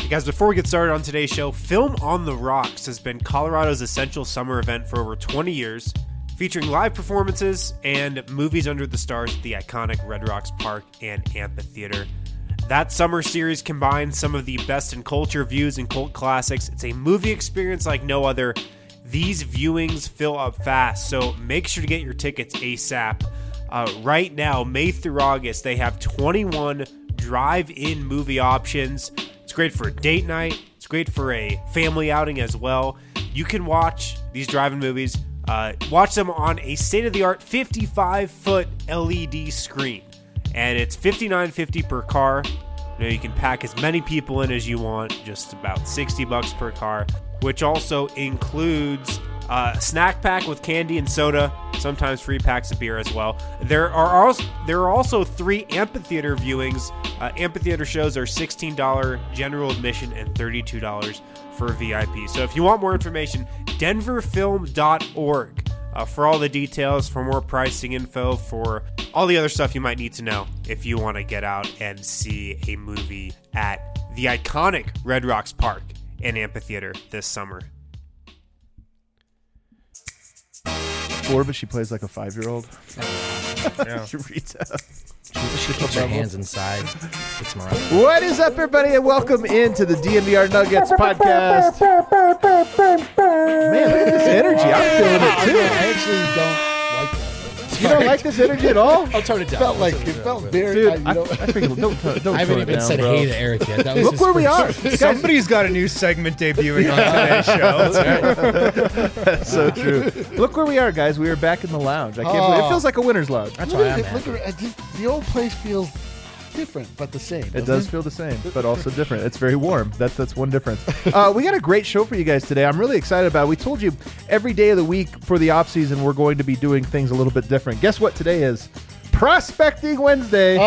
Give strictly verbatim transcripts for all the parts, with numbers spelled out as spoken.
Guys, before we get started on today's show, Film on the Rocks has been Colorado's essential summer event for over twenty years, featuring live performances and movies under the stars at the iconic Red Rocks Park and Amphitheater. That summer series combines some of the best in culture views and cult classics. It's a movie experience like no other. These viewings fill up fast, so make sure to get your tickets ASAP. Uh, right now, May through August, they have twenty-one drive-in movie options. It's great for a date night. It's great for a family outing as well. You can watch these drive-in movies, uh, watch them on a state-of-the-art fifty-five foot L E D screen. And it's fifty-nine fifty per car. You know, you can pack as many people in as you want, just about sixty bucks per car, which also includes uh, a snack pack with candy and soda, sometimes free packs of beer as well. There are also, there are also three amphitheater viewings. Uh, amphitheater shows are sixteen dollars general admission and thirty-two dollars for V I P. So if you want more information, denver film dot org uh, for all the details, for more pricing info, for all the other stuff you might need to know if you want to get out and see a movie at the iconic Red Rocks Park and Amphitheater this summer. Four, but she plays like a five-year-old. Yeah. Rita. She keeps her hands inside. It's Mariah. What is up, everybody, and welcome into the D N V R Nuggets podcast. Man, look at this energy. I'm feeling it, too. I actually don't like that. You don't like this energy at all? I'll tone it down. It felt like I'll tone it down felt a bit. very. Dude, I, you I, know, I freaking don't, don't, don't I haven't tone it even down, said bro. hey to Eric yet. That was Look his where we are. first- Somebody's got a new segment debuting on today's show. That's right. That's so true. Look where we are, guys. We are back in the lounge. I can't believe it. Oh. feels like a winner's lounge. That's look why at I'm it, look happy. at it, just, the old place feels different, but the same. It does feel the same, but also different. It's very warm. That's that's one difference. Uh, we got a great show for you guys today. I'm really excited about it. We told you every day of the week for the off season we're going to be doing things a little bit different. Guess what today is? Prospecting Wednesday.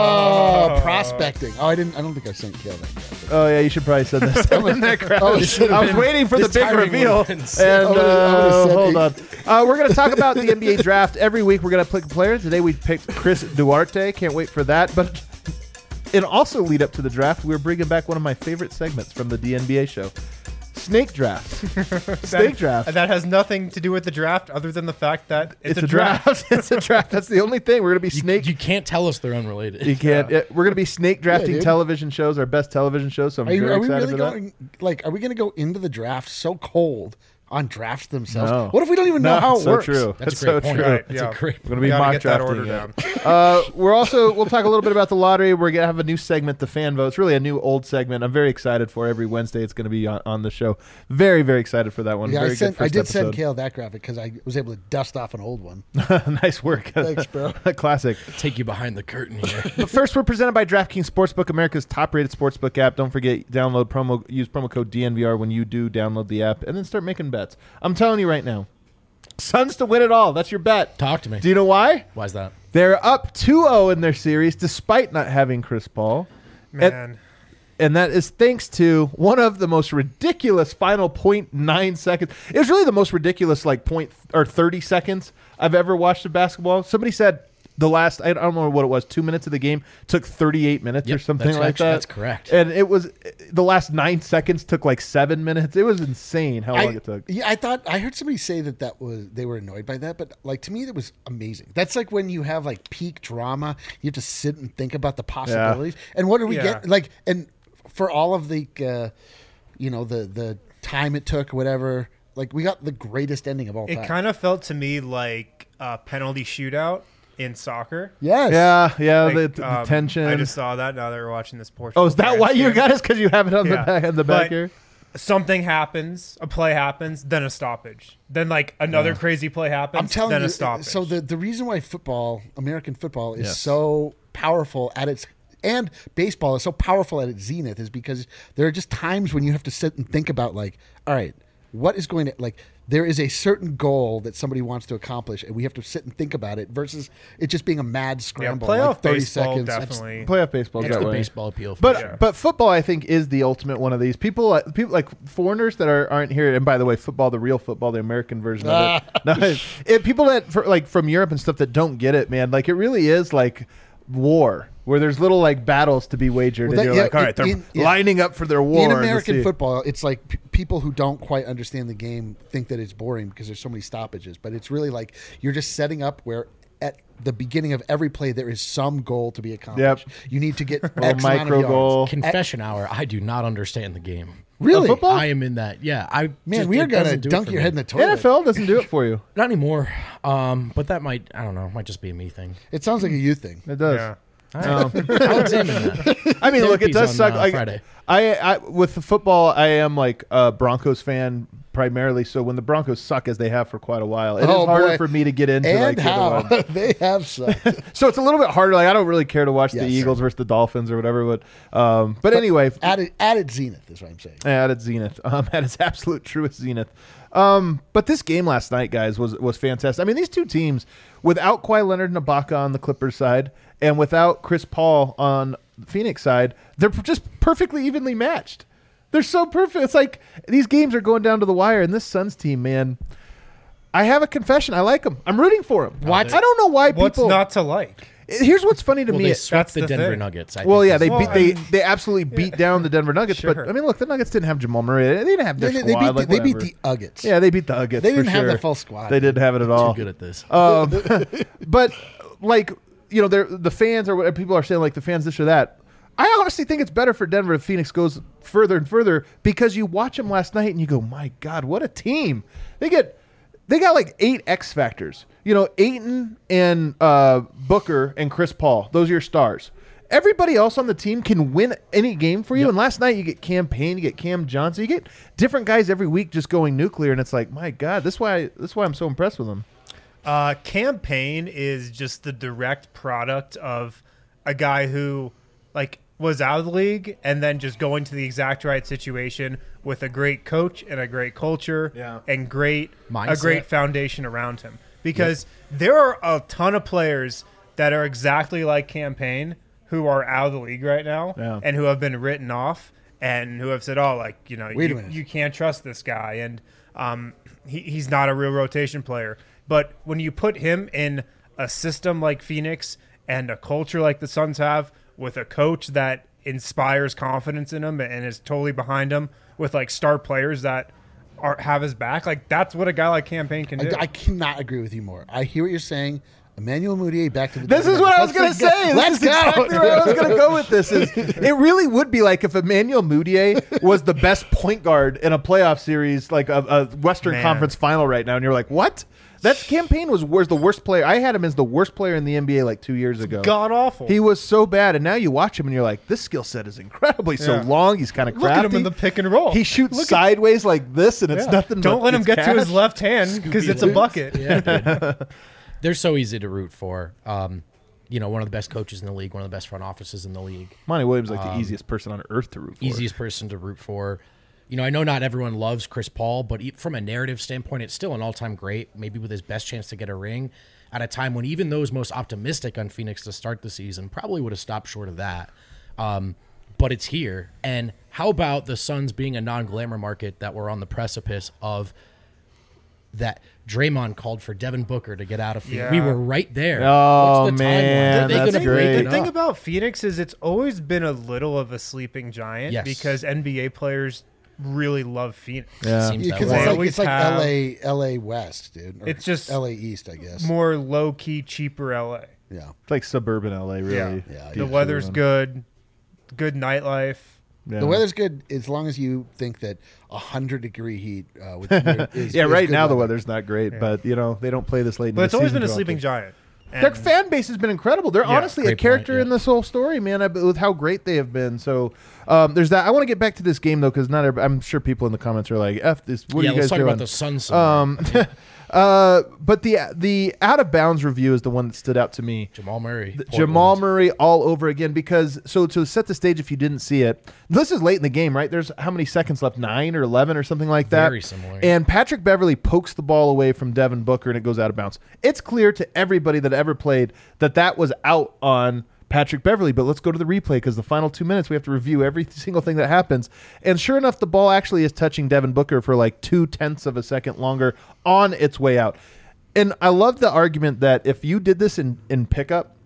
Oh, prospecting. Oh, I didn't. I don't think I sent Kale that yet. Oh yeah, you should probably send this up in that crowd. Oh, it should have I was been- waiting for the this big timing reveal. would've been And sick. I would've- I would've uh, said hold it. on, uh, we're going to talk about the N B A draft every week. We're going to pick a player. Today we picked Chris Duarte. Can't wait for that. But and also lead up to the draft, we're bringing back one of my favorite segments from the D N B A show. Snake draft. Snake draft. That has nothing to do with the draft other than the fact that it's, It's, a draft. It's a draft. That's the only thing. We're going to be You, snake. you can't tell us they're unrelated. You can't. yeah, we're going to be snake drafting dude. television shows, our best television shows. So I'm Are, you, very are we excited really for that. going? Like, are we going to go into the draft so cold on drafts themselves? No. What if we don't even know No, how it so works? true. That's That's a great so point. true. Right. That's Yeah. a great We're gonna be Gotta mock get that drafting order it. down. Uh, we're also we'll talk a little bit about the lottery. We're gonna have a new segment, the fan votes. Really a new old segment. I'm very excited for every Wednesday. It's gonna be on, on the show. Very very excited for that one. Yeah, very I, sent, good I first did send episode. Kale that graphic because I was able to dust off an old one. Nice work. Thanks, bro. Classic. Take you behind the curtain here. But first, we're presented by DraftKings Sportsbook, America's top-rated sportsbook app. Don't forget, download promo, use promo code D N V R when you do download the app, and then start making bets. I'm telling you right now, Suns to win it all. That's your bet. Talk to me. Do you know why? Why's that? They're up two oh in their series, despite not having Chris Paul. Man. And that is thanks to one of the most ridiculous final point nine seconds. It was really the most ridiculous like point or thirty seconds I've ever watched of basketball. Somebody said the last, I don't know what it was, two minutes of the game took thirty-eight minutes Yep, or something that's like actu- that. that's correct. And it was, the last nine seconds took like seven minutes. It was insane how long I, it took. Yeah, I thought I heard somebody say that that was they were annoyed by that, but like to me that was amazing. That's like when you have like peak drama, you have to sit and think about the possibilities. And what do we Yeah. get? Like, and for all of the, uh, you know, the the time it took, whatever. Like we got the greatest ending of all It time. kind of felt to me like a penalty shootout in soccer. yes. Yeah, yeah, Like, the, the um, tension. I just saw that now that we're watching this Portugal. oh, is that France why you game. got us? Because you have it on the Yeah. back, on the back But here? Something happens, a play happens, then a stoppage. Then like another crazy play happens, I'm telling then you. a stoppage. So the the reason why football, American football, is Yes. so powerful at its and baseball is so powerful at its zenith is because there are just times when you have to sit and think about like, all right, what is going to like. There is a certain goal that somebody wants to accomplish, and we have to sit and think about it. Versus it just being a mad yeah, scramble, playoff like thirty baseball seconds. definitely. Playoff baseball. That's that the way. baseball appeal. For But sure. but football, I think, is the ultimate one of these. People like people like foreigners that are aren't here. And by the way, football, the real football, the American version of it. No, it people that for, like from Europe and stuff that don't get it, man. Like it really is like war where there's little like battles to be wagered, Well, and that- you're yeah, like, all right, they're in- yeah. lining up for their war. In to American see- football, it's like p- people who don't quite understand the game think that it's boring because there's so many stoppages. But it's really like you're just setting up where at the beginning of every play there is some goal to be accomplished. Yep. You need to get Little X amount of micro yards. goal. Confession hour. I do not understand the game. Really? Oh, football? I am in that. Yeah, I Man, just, we are it gonna doesn't do it dunk for your me. head in the toilet. N F L doesn't do it for you. Not anymore. Um, but that might. I don't know. Might just be a me thing. It sounds like a you thing. It does. Yeah. I'll examine that. I mean, look, it Therapy's does on, suck. uh, like, Friday. I, I, with the football, I am like a Broncos fan primarily. So when the Broncos suck, as they have for quite a while, it is Oh, harder boy. for me to get into. And like, the other how one. they have sucked. So it's a little bit harder. Like I don't really care to watch the Yes. Eagles versus the Dolphins or whatever. But, um, but anyway, at it, at its zenith is what I'm saying. at its zenith, um, at its absolute truest zenith. Um, but this game last night, guys, was was fantastic. I mean, these two teams, without Kawhi Leonard and Ibaka on the Clippers side, and without Chris Paul on the Phoenix side, they're just perfectly evenly matched. They're so perfect. It's like these games are going down to the wire, and this Suns team, man. I have a confession. I like them. I'm rooting for them. What? I don't know why What's people. not to like? Here's what's funny to Well, me. they It- swept that's the, the Denver thing. Nuggets. I well, think yeah, they is- Well, beat I they mean- they absolutely beat down the Denver Nuggets. But Sure. I mean, look, the Nuggets didn't have Jamal Murray. They didn't have their They, they, squad. beat, like, the, they beat whatever. the Uggets. Yeah, they beat the Nuggets. They didn't for have sure. the full squad. They didn't have it at all. too good at this. Um, but like you know, they're, the fans or whatever people are saying, like the fans this or that. I honestly think it's better for Denver if Phoenix goes further and further because you watch them last night and you go, my God, what a team! They get they got like eight X factors. You know, Ayton and uh, Booker and Chris Paul. Those are your stars. Everybody else on the team can win any game for you. And last night you get Cam Payne, you get Cam Johnson, you get different guys every week just going nuclear. And it's like, my God, this is why this is why I'm so impressed with them. Uh, campaign is just the direct product of a guy who, like, was out of the league and then just going to the exact right situation with a great coach and a great culture Yeah. and great a Mindset. great foundation around him. Because there are a ton of players that are exactly like Campaign who are out of the league right now Yeah. and who have been written off and who have said, oh, like, you know, Wait a you, minute. you can't trust this guy. And um, he, he's not a real rotation player. But when you put him in a system like Phoenix and a culture like the Suns have with a coach that inspires confidence in him and is totally behind him with like star players that are have his back, like that's what a guy like Campaign can do. I, I cannot agree with you more. I hear what you're saying. Emmanuel Mudiay back to the. This is what I was going to Let's say. go. This Let's is go. exactly where I was going to go with this. Is it really would be like if Emmanuel Mudiay was the best point guard in a playoff series, like a, a Western Man. Conference final right now, and you're like, what? That Campaign was, was the worst player. I had him as the worst player in the N B A like two years ago. God awful. He was so bad, and now you watch him and you're like, this skill set is incredibly so Yeah. long. He's kind of Look crafty. at him in the pick and roll. He shoots Look at- sideways like this, and it's Yeah. nothing. Don't but let him it's get to his cash. left hand because it's a bucket. Yeah, dude. They're so easy to root for. Um, you know, one of the best coaches in the league, one of the best front offices in the league, Monty Williams is like the easiest person on earth to root for. easiest person to root for. You know, I know not everyone loves Chris Paul, but e- from a narrative standpoint, it's still an all-time great, maybe with his best chance to get a ring at a time when even those most optimistic on Phoenix to start the season probably would have stopped short of that. Um, but it's here. And how about the Suns being a non-glamour market that we're on the precipice of that Draymond called for Devin Booker to get out of Phoenix. Yeah. We were right there. Oh, What's the man, timeline? Are they that's gonna great. break The it thing up? about Phoenix is it's always been a little of a sleeping giant Yes. because N B A players really love Phoenix. Yeah. Seems that Because way. it's like always it's like have- L A L A West, dude. Or It's just L A East, I guess. More low key, cheaper L A. Yeah. It's like suburban L A, really. Yeah. Yeah, The weather's good, good nightlife. Yeah. The weather's good as long as you think that a hundred degree heat. Uh, with, is, yeah, is right good now the weather. weather's not great, but you know they don't play this late. in But the it's always season been a too sleeping often. giant. Their And- fan base has been incredible. They're Yeah, honestly a great character point, yeah. in this whole story, man. I, with how great they have been. So um, there's that. I want to get back to this game though, because not. every- I'm sure people in the comments are like, "F this." What yeah, are you let's guys talk doing? about the Suns. some Um, more. uh, but the the out of bounds review is the one that stood out to me. Jamal Murray. The- Portland. Jamal Murray all over again because so to set the stage if you didn't see it, this is late in the game, right? There's how many seconds left? Nine or eleven or something like that. Very similar. And Patrick Beverly pokes the ball away from Devin Booker and it goes out of bounds. It's clear to everybody that ever played that that was out on Patrick Beverly, but let's go to the replay because the final two minutes we have to review every single thing that happens. And sure enough, the ball actually is touching Devin Booker for like two tenths of a second longer on its way out. And I love the argument that if you did this in, in pickup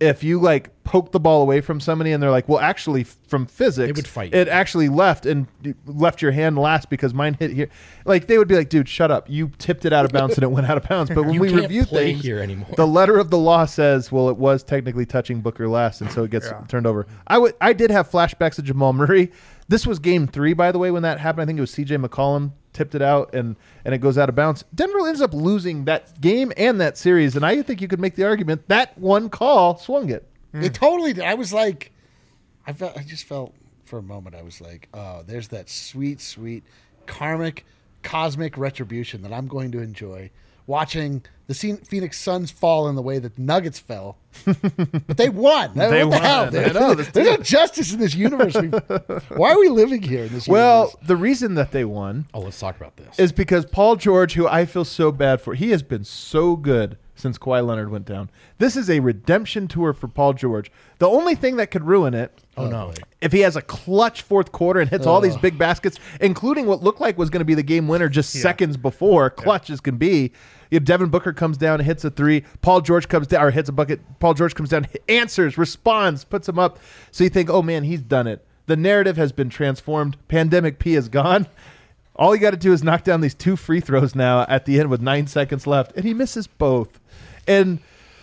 if you like poke the ball away from somebody and they're like, well, actually from physics, They would fight it you. actually left and left your hand last because mine hit here. Like they would be like, dude, shut up. You tipped it out of bounds and it went out of bounds. But when You we can't review play things, here anymore. the letter of the law says, well, it was technically touching Booker last, and so it gets Yeah. turned over. I would, I did have flashbacks of Jamal Murray. This was game three, by the way, when that happened. I think it was C J McCollum tipped it out and and it goes out of bounds. Denver ends up losing that game and that series, and I think you could make the argument that one call swung it. It totally did. I was like, I felt, I just felt for a moment, I was like, oh, there's that sweet, sweet karmic, cosmic retribution that I'm going to enjoy watching the Phoenix Suns fall in the way that the Nuggets fell. But they won. They what the hell, won. dude? I know, this There's no justice in this universe. We- Why are we living here in this Well, universe? the reason that they won Oh, let's talk about this. is because Paul George, who I feel so bad for, he has been so good since Kawhi Leonard went down. This is a redemption tour for Paul George. The only thing that could ruin it, oh, no. if he has a clutch fourth quarter and hits all these big baskets, including what looked like was going to be the game winner just seconds before, clutch as can be. If Devin Booker comes down and hits a three, Paul George comes down or hits a bucket, Paul George comes down, answers, responds, puts him up. So you think, oh man, he's done it. The narrative has been transformed. Pandemic P is gone. All you got to do is knock down these two free throws now at the end with nine seconds left, and he misses both. And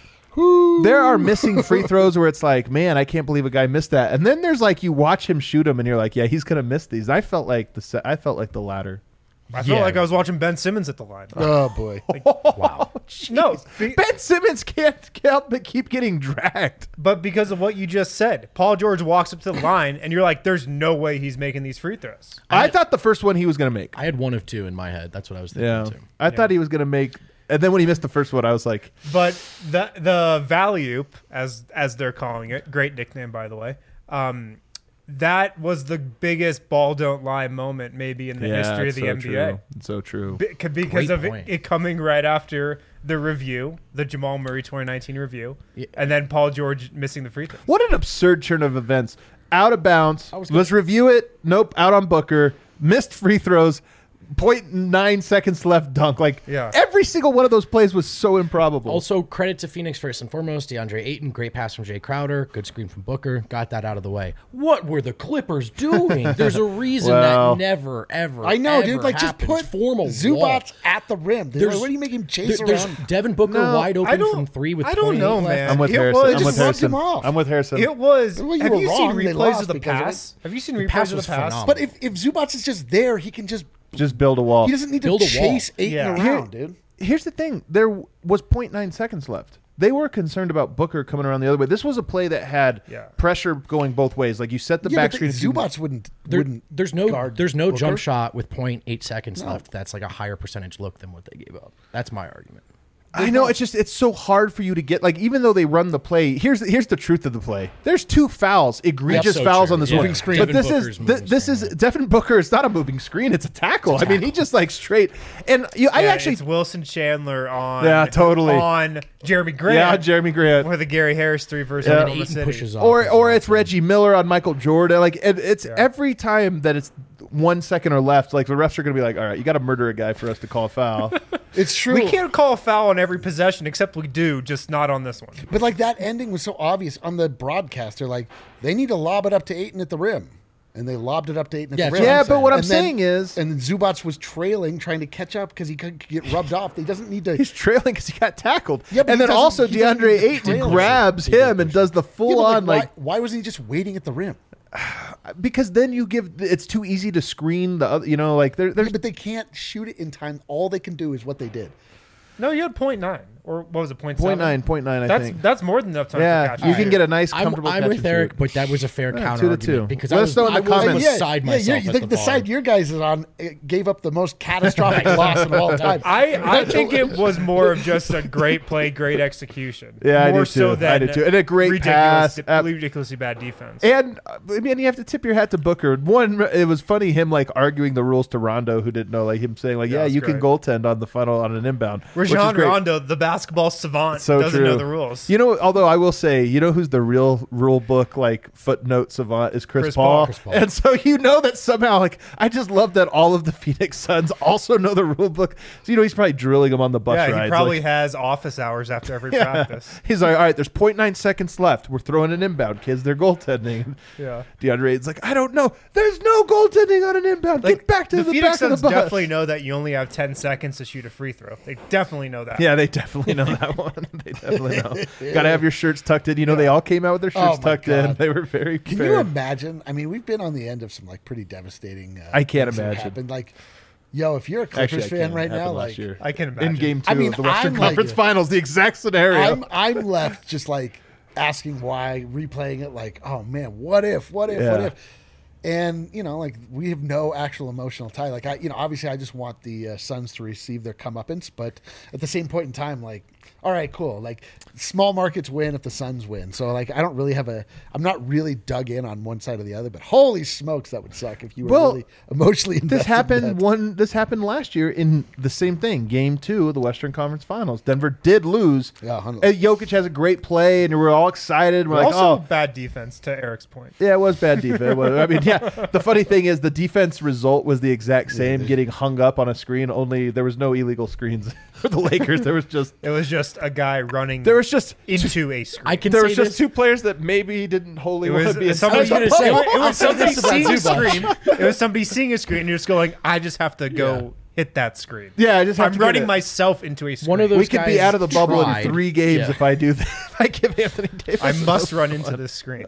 there are missing free throws where it's like, man, I can't believe a guy missed that. And then there's like you watch him shoot them, and you're like, yeah, he's gonna miss these. I felt like the se- I felt like the latter. I felt Yeah. like I was watching Ben Simmons at the line. Oh, boy. Wow. No, be- Ben Simmons can't help but keep getting dragged. but because of what you just said, Paul George walks up to the line, and you're like, "There's no way he's making these free throws." I, thought the first one he was gonna make. I had one of two in my head. That's what I was thinking Yeah, too. I thought he was gonna make. And then when he missed the first one, I was like, But the the Valley-oop, as as they're calling it, great nickname by the way. Um, that was the biggest ball don't lie moment maybe in the yeah, history of it's the so N B A. true. It's so true. Be- because Great of it, point. it coming right after the review, the Jamal Murray twenty nineteen review, Yeah. and then Paul George missing the free throw. What an absurd turn of events. Out of bounds. was Let's review it. Nope. Out on Booker. Missed free throws. Point nine seconds left dunk. Like Yeah. every single one of those plays was so improbable. Also, credit to Phoenix first and foremost. DeAndre Ayton, great pass from Jay Crowder, good screen from Booker, got that out of the way. What were the Clippers doing? There's a reason Well, that never, ever, I know, ever dude. Like, just happens. put Form a wall. Zubats at the rim. Dude. There's- Like, what do you make him chase There- there's around? Devin Booker No, wide I open don't- from three with I don't twenty-eight know, left. man. I'm with It Harrison. was- I'm They with just locked him Harrison. off. I'm with Harrison. It was. Well, you have were you wrong. seen They replays lost of the because of pass? Have you seen replays pass of the was pass? phenomenal. But if, if Zubats is just there, he can just Just build a wall. he doesn't need to Build a wall. chase Ayton Yeah. around, dude. Here's the thing. There was point nine seconds left. They were concerned about Booker coming around the other way. This was a play that had Yeah. pressure going both ways. Like you set the Yeah, back but screen. the if you- Zubats wouldn't There- wouldn't there's no guard there's no Booker. jump shot with point eight seconds left. That's like a higher percentage look than what they gave up. That's my argument. I know it's just it's so hard for you to get like even though they run the play. Here's here's the truth of the play. There's two fouls, egregious so fouls true. on this Yeah. one. Moving screen. But Devin this Booker's is moving th- this screen, is yeah. Devin Booker. It's not a moving screen. It's a tackle. I mean, he just like straight and you, I Yeah, actually it's Wilson Chandler on Yeah, totally. on Jeremy Grant. yeah Jeremy Grant. for the Gary Harris three versus Yeah. And Oklahoma Ayton City. pushes off. or as or well. it's Reggie Miller on Michael Jordan. Like it, it's every time that it's one second or left. Like the refs are going to be like, all right, you got to murder a guy for us to call a foul. It's true. We can't call a foul on every possession, except we do, just not on this one. But like that ending was so obvious on the broadcast. They're like, they need to lob it up to Ayton at the rim. And they lobbed it up to Ayton at Yeah, the rim. yeah, but what I'm And then- saying is- and then Zubats was trailing, trying to catch up because he could get rubbed off. He doesn't need to. He's trailing because he got tackled. Yeah, but and he then doesn't- also he doesn't DeAndre need to Ayton trail. grabs He did him and push does the Yeah, full but, on why, like why wasn't he just waiting at the rim? because then you give it's too easy to screen the other. You know, like there, there's Yeah, but they can't shoot it in time. All they can do is what they did. No, you had point nine, or what was it, point point seven? nine, point nine. I That's think. that's more than enough time. Yeah, for catch you and can shoot. get a nice, I'm, comfortable. I'm catch with and Eric, shoot. but that was a fair Yeah, counter two to argument two. because Let I us was, know in the I was comments. almost Yeah, side yeah, myself you at the, the, the bar. side your guys is on uh, gave up the most catastrophic loss of all time. I, I think it was more of just a great play, great execution. Yeah, I more do so too. than I do too. And a great ridiculous, pass. Uh, ridiculously bad defense. And uh, I mean, you have to tip your hat to Booker. One, it was funny him like arguing the rules to Rondo, who didn't know, like him saying like, Yeah, "Yeah, it's you can great. goaltend on the funnel on an inbound." Rajon is Rajon great. Rondo, the basketball savant, So doesn't true. know the rules. You know, although I will say, you know who's the real rule book like footnote savant is Chris, Chris Paul. Paul. Chris Paul. And so you know that somehow, like, I just love that all of the Phoenix Suns also know the rule book. So you know he's probably drilling them on the bus yeah, rides. he probably like, has office hours after every yeah. practice. He's like, all right, there's zero point nine seconds left. We're throwing an inbound, kids. They're goaltending. Yeah. DeAndre Ayton's like, I don't know. There's no goaltending on an inbound. Like, Get back to the, the Phoenix back of Suns the bus. definitely know that you only have ten seconds to shoot a free throw. They definitely know that. Yeah, they definitely know that one. They definitely know. Got to have your shirts tucked in. You know, they all came out with their Oh, shirts my tucked in. God. They were very Can fair. you imagine? I mean, we've been on the end of some like pretty devastating. Uh, I can't things that imagine. happened. Like, yo, if you're a Clippers Actually, I fan can't. right It happened now, last like, year. I can imagine. in game two I mean, of the Western I'm like- Conference Finals, the exact scenario. I'm I'm left just like asking why, replaying it, like, oh man, what if, what if, what Yeah. if, and you know, like we have no actual emotional tie. Like I, you know, obviously I just want the uh, Suns to receive their comeuppance, but at the same point in time, like, all right, cool. Like small markets win if the Suns win. So like I don't really have a, I'm not really dug in on one side or the other. But holy smokes, that would suck if you were Well, really emotionally invested. This happened in that. one. This happened last year in the same thing, Game Two of the Western Conference Finals. Denver did lose. Yeah, one hundred. And Jokic has a great play, and we're all excited. We're like, also, oh, bad defense to Eric's point. yeah, it was bad defense. It was- I mean, yeah. The funny thing is, the defense result was the exact same, getting hung up on a screen. Only there was no illegal screens for the Lakers. There was just It was just a guy running there was just into a screen. I can there say was just this. two players that maybe didn't wholly It want was to be in somebody, I was gonna say, it, it I'll was say somebody this about seeing a Zubac. screen. It was somebody seeing a screen and you're just going, I just have to go Yeah. hit that screen. Yeah, I just have I'm to get running it. myself into a screen. One of those We could be guys out of the bubble tried. in three games Yeah. if I do that. If I give Anthony Davis. I must a- run into this screen.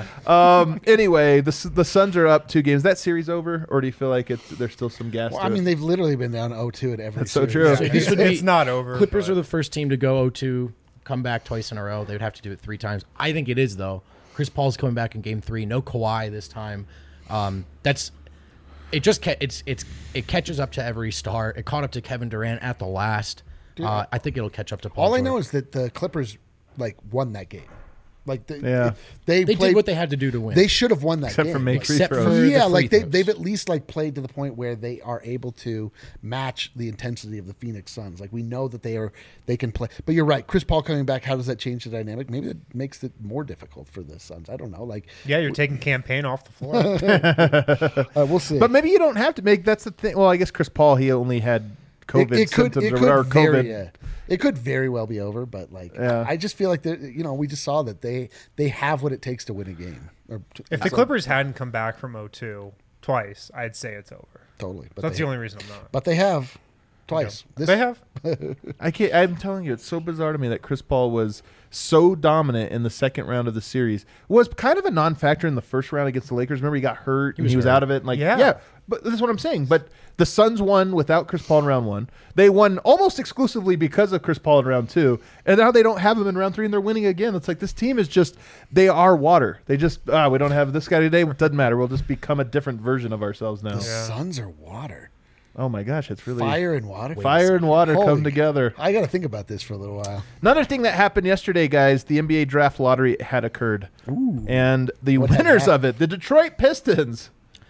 Um. Anyway, the S- the Suns are up two games. Is that series over, or do you feel like it's there's still some gas? Well, to I mean, it? they've literally been down oh two at every. That's so series. true. So this would be it's not over. Clippers but- are the first team to go oh two, come back twice in a row. They would have to do it three times. I think it is though. Chris Paul's coming back in Game Three. No Kawhi this time. Um, that's it. Just ca- it's it's it catches up to every star. It caught up to Kevin Durant at the last. Uh, I think it'll catch up to Paul. All I George. know is that the Clippers like won that game. Like they, Yeah. they, they played, did what they had to do to win. They should have won that Except game. for make Like, free Except throws. for the yeah, free like they, throws. they've at least like played to the point where they are able to match the intensity of the Phoenix Suns. Like we know that they are they can play. But you're right, Chris Paul coming back. How does that change the dynamic? Maybe it makes it more difficult for the Suns. I don't know. Like Yeah, you're taking campaign off the floor. uh, we'll see. But maybe you don't have to make. That's the thing. Well, I guess Chris Paul, he only had COVID it, it could symptoms it or could whatever. very COVID. uh, it could very well be over. But like Yeah. I, I just feel like they you know we just saw that they they have what it takes to win a game. Or to- if the so- Clippers hadn't come back from oh two twice, I'd say it's over. totally, but That's they, the only reason I'm not. but they have twice. This, They have. I can't. I'm telling you, it's so bizarre to me that Chris Paul was so dominant in the second round of the series. Was kind of a non-factor in the first round against the Lakers. Remember, he got hurt and was he was hurt. out of it. And like, yeah. Yeah. But this is what I'm saying. But the Suns won without Chris Paul in round one. They won almost exclusively because of Chris Paul in round two. And now they don't have him in round three, and they're winning again. It's like this team is just they are water. They just ah, we don't have this guy today. It doesn't matter. We'll just become a different version of ourselves now. the Suns are water, Oh my gosh, it's really fire and water. Fire and water Holy- come together. I got to think about this for a little while. Another thing that happened yesterday, guys, the N B A draft lottery had occurred. And the What had winners happened? of it, the Detroit Pistons.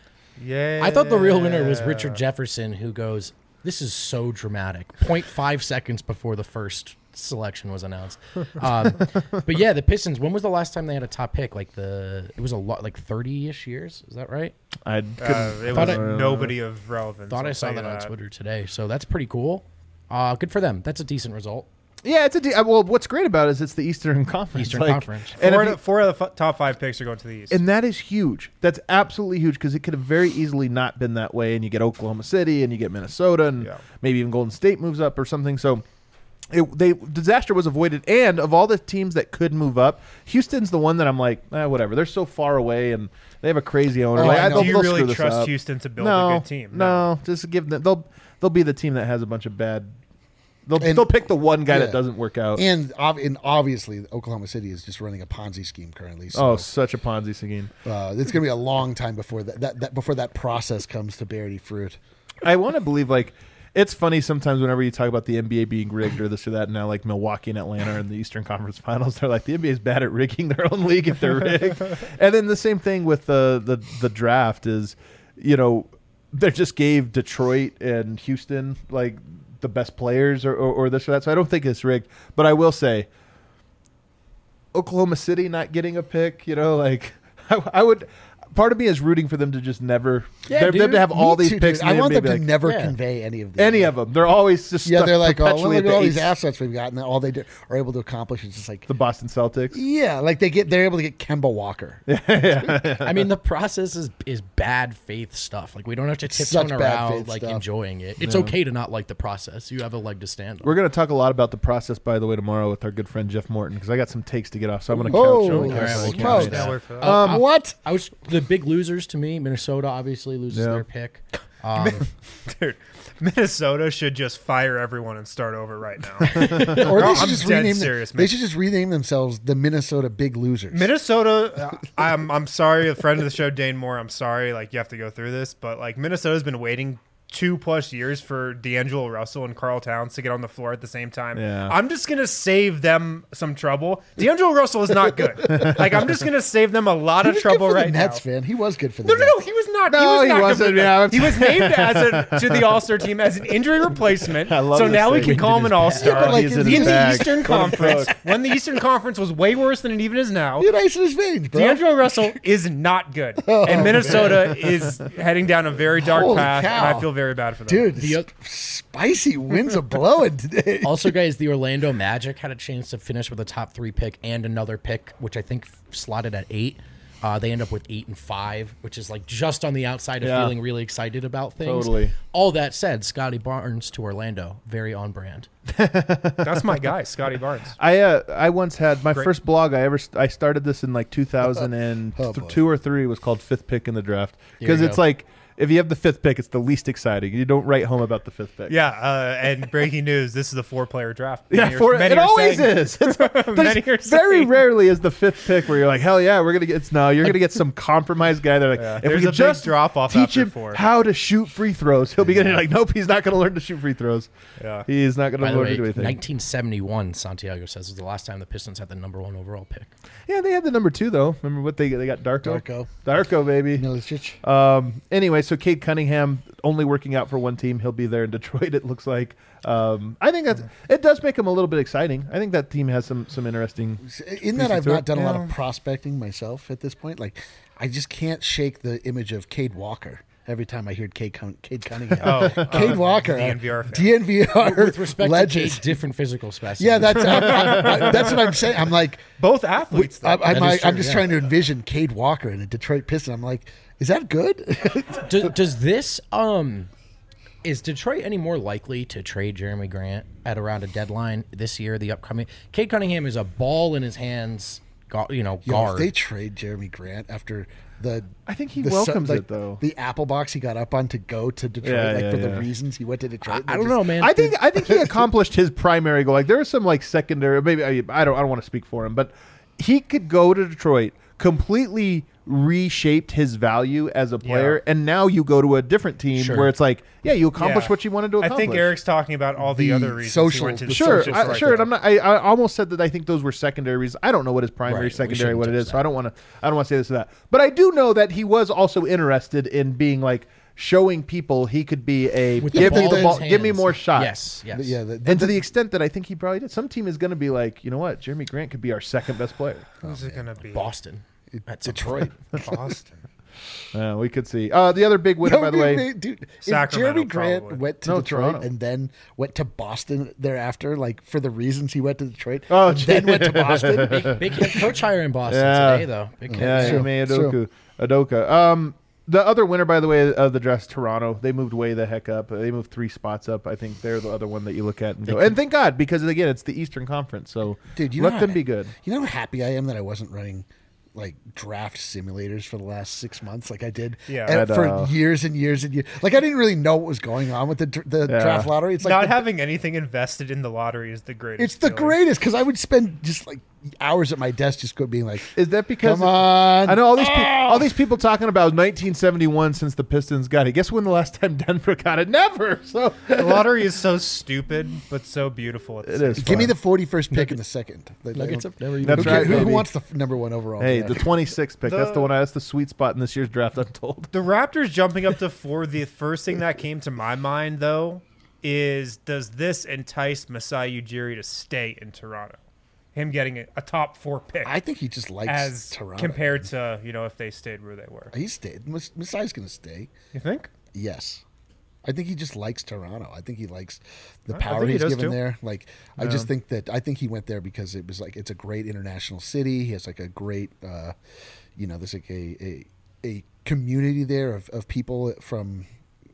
Yeah. I thought the real winner was Richard Jefferson, who goes, "This is so dramatic." zero point five seconds before the first selection was announced. Um, but yeah, the Pistons. When was the last time they had a top pick? Like the it was a lot, like thirty-ish years. Is that right? I Uh, couldn't. it Thought was I- nobody of relevance. Thought I'll I saw tell that you on Twitter today. So that's pretty cool. Uh, good for them. That's a decent result. yeah, it's a. De- uh, well, what's great about it is it's the Eastern Conference. Eastern Like, Conference. And, Four, if of you- the, four of the f- top five picks are going to the East. and that is huge. That's absolutely huge because it could have very easily not been that way. And you get Oklahoma City and you get Minnesota and Yeah. maybe even Golden State moves up or something. So. It, they disaster was avoided, and of all the teams that could move up, Houston's the one that I'm like, eh, whatever. They're so far away, and they have a crazy owner. Oh, like, I know. they'll- Do you they'll really screw this trust up. Houston to build no, a good team? No, just give them. They'll they'll be the team that has a bunch of bad. They'll And- they'll pick the one guy yeah. that doesn't work out. And, ob- and obviously, Oklahoma City is just running a Ponzi scheme currently. oh, So such a Ponzi scheme. uh, it's going to be a long time before that, that, that before that process comes to bear any fruit. I want to believe like. It's funny sometimes whenever you talk about the N B A being rigged or this or that, and now like Milwaukee and Atlanta are in the Eastern Conference Finals, they're like the N B A is bad at rigging their own league if they're rigged. And then the same thing with the, the the draft is, you know, they just gave Detroit and Houston like the best players or, or, or this or that. So I don't think it's rigged. But I will say, Oklahoma City not getting a pick, you know, like I, I would. Part of me is rooting for them to just never. Yeah, them, dude. them to have all Me these too, picks. dude. and I want them maybe to like, never Yeah. convey any of these. any of them. They're always just Yeah, stuck they're like, oh, perpetually well, look at at the all these eighth. assets we've got, and all they do, are able to accomplish is just like, The Boston Celtics. yeah, like they get, they're able to get Kemba Walker. I mean, the process is is bad faith stuff. Like we don't have to Such tiptoe bad around faith like stuff. enjoying it. It's okay to not like the process. You have a leg to stand on. We're going to talk a lot about the process, by the way, tomorrow with our good friend Jeff Morton, because I got some takes to get off, so I'm going to Oh, couch All on right, this. we'll smokes. count Yeah, that. we're for that. Um, what? I was the big losers to me. Minnesota obviously loses Yeah. their pick. Um, Dude, Minnesota should just fire everyone and start over right now. Or they I'm should just dead rename. serious, them, man. they should just rename themselves the Minnesota Big Losers. Minnesota, uh, I'm I'm sorry, a friend of the show, Dane Moore. I'm sorry, like you have to go through this, but like Minnesota's been waiting two plus years for D'Angelo Russell and Karl Towns to get on the floor at the same time. Yeah. I'm just gonna save them some trouble. D'Angelo Russell is not good. Like I'm just gonna save them a lot He of was trouble good for right the now. Nets, man. He was good for the No, no, Nets. no, he was not. No, he was he not good wasn't, for the yeah. Nets. He was named as a to the All Star team as an injury replacement. I love So this now we thing. can call him an All Yeah, Star. but like, He's in in in his the bag. Eastern Let him Conference, cook. when the Eastern Conference was way worse than it even is now. Dude, ice in his veins, bro. D'Angelo Russell is not good, and Minnesota is heading down a very dark Holy path, cow. and I feel very bad for them. Dude, The sp- spicy winds are blowing today. also, guys, the Orlando Magic had a chance to finish with a top three pick and another pick, which I think slotted at eight. Uh, they end up with eight and five, which is like just on the outside of Yeah. feeling really excited about things. Totally. All that said, Scotty Barnes to Orlando, very on brand. That's my guy, Scotty Barnes. I uh, I once had my Great. first blog I ever st- I started this in like two thousand Oh, boy. two or three was called Fifth Pick in the Draft There because you it's go. like if you have the fifth pick, it's the least exciting. You don't write home about the fifth pick. Yeah, uh, and breaking news: this is a four-player draft. Yeah, Many are- for, many it are always saying- is. It's, Many there's are very saying- rarely is the fifth pick where you're like, hell yeah, we're gonna get. It's, no, you're gonna get some compromised guy. They're like, Yeah, if there's we a could big just drop-off teach after him four. how to shoot free throws, he'll be getting like, nope, he's not gonna learn to shoot free throws. Yeah. He is not gonna By the learn way, to do anything. nineteen seventy-one, Santiago says, was the last time the Pistons had the number one overall pick. Yeah, they had the number two though. Remember what they they got? Darko. Darko. Darko, baby. Milicic. Um, anyway, so Cade Cunningham only working out for one team. He'll be there in Detroit. It looks like. Um, I think that's it. Does make him a little bit exciting. I think that team has some some interesting. In that, pieces I've to not it. done a lot Yeah. of prospecting myself at this point. Like, I just can't shake the image of Cade Walker every time I hear Cade, Cun- Cade Cunningham. Oh, Cade uh, Walker, D N V R fan. D N V R With respect legend. to Cade, different physical specimens. Yeah, that's I, I, I, that's what I'm saying. I'm like, Both athletes. Though. I, I'm, That like is true, I'm just yeah. trying to envision Cade Walker in a Detroit Piston. I'm like, is that good? does, does this um is Detroit any more likely to trade Jeremy Grant at around a deadline this year, the upcoming? Cade Cunningham is a ball in his hands, gu- you know, Yo, guard. if they trade Jeremy Grant after the, I think he the su- welcomes like, it though. The Apple box he got up on to go to Detroit, Yeah, like yeah, for yeah. the reasons he went to Detroit. I They're don't just- know, man. I think I think he accomplished his primary goal. Like there are some like secondary. Maybe I, I don't I don't want to speak for him, but he could go to Detroit, completely reshaped his value as a player, Yeah. and now you go to a different team Sure. where it's like, yeah, you accomplished Yeah. what you wanted to I accomplish. think Eric's talking about all the, The other reasons social- he went to the the Sure, social I, strike sure. And there. I'm not. I, I almost said that I think those were secondary reasons. I don't know what his primary, Right, we secondary, shouldn't what it touch is. So that. I don't want to. I don't want to say this or that. But I do know that he was also interested in being like showing people he could be a With the give me ball the in ball, his give me hands. more shots. Yes, yes. Yeah, the, And to the extent that I think he probably did, some team is going to be like, you know what, Jeremy Grant could be our second best player. Who's it gonna be? Boston. At some Detroit. Boston. Uh, we could see. Uh, the other big winner, No, by the dude, way, man, dude, if Sacramento, Jeremy Grant probably. went to No, Detroit Toronto. and then went to Boston thereafter, like for the reasons he went to Detroit, Oh, and then went to Boston. Big, big head coach hire in Boston Yeah. today, though. Big head yeah, coach. Ime True, Adoka. Adoka. Um, the other winner, by the way, of the draft, Toronto. They moved way the heck up. They moved three spots up. I think they're the other one that you look at and go. And thank God, because again, it's the Eastern Conference, so Dude, you let know them how- be good. You know how happy I am that I wasn't running like draft simulators for the last six months, like I did Yeah. and I for know. years and years and years. Like I didn't really know what was going on with the dr- the Yeah. draft lottery. It's like Not the- having anything invested in the lottery is the greatest. it's the feeling. greatest because I would spend just like hours at my desk just go being like, Is that because come on, I know all these people, Oh! all these people talking about nineteen seventy-one since the Pistons got it. Guess when the last time Denver got it? Never. So The lottery is so stupid, but so beautiful. At the It same is. time. Give me the forty-first pick in the second. Like, Nuggets who have never even That's who, right, who baby. wants the f- number one overall? hey, draft? the twenty-sixth pick. that's The- the one. That's the sweet spot in this year's draft. I'm told. The Raptors jumping up to four. The first thing that came to my mind, though, is, does this entice Masai Ujiri to stay in Toronto? Him getting a, a top four pick. I think he just likes as Toronto. compared to, you know, if they stayed where they were. He stayed. Mas- Masai's going to stay. You think? Yes. I think he just likes Toronto. I think he likes the I power think he he's does given too. there. Like, I just think that I think he went there because it was like it's a great international city. He has like a great, uh, you know, there's like a a, a community there of, of people from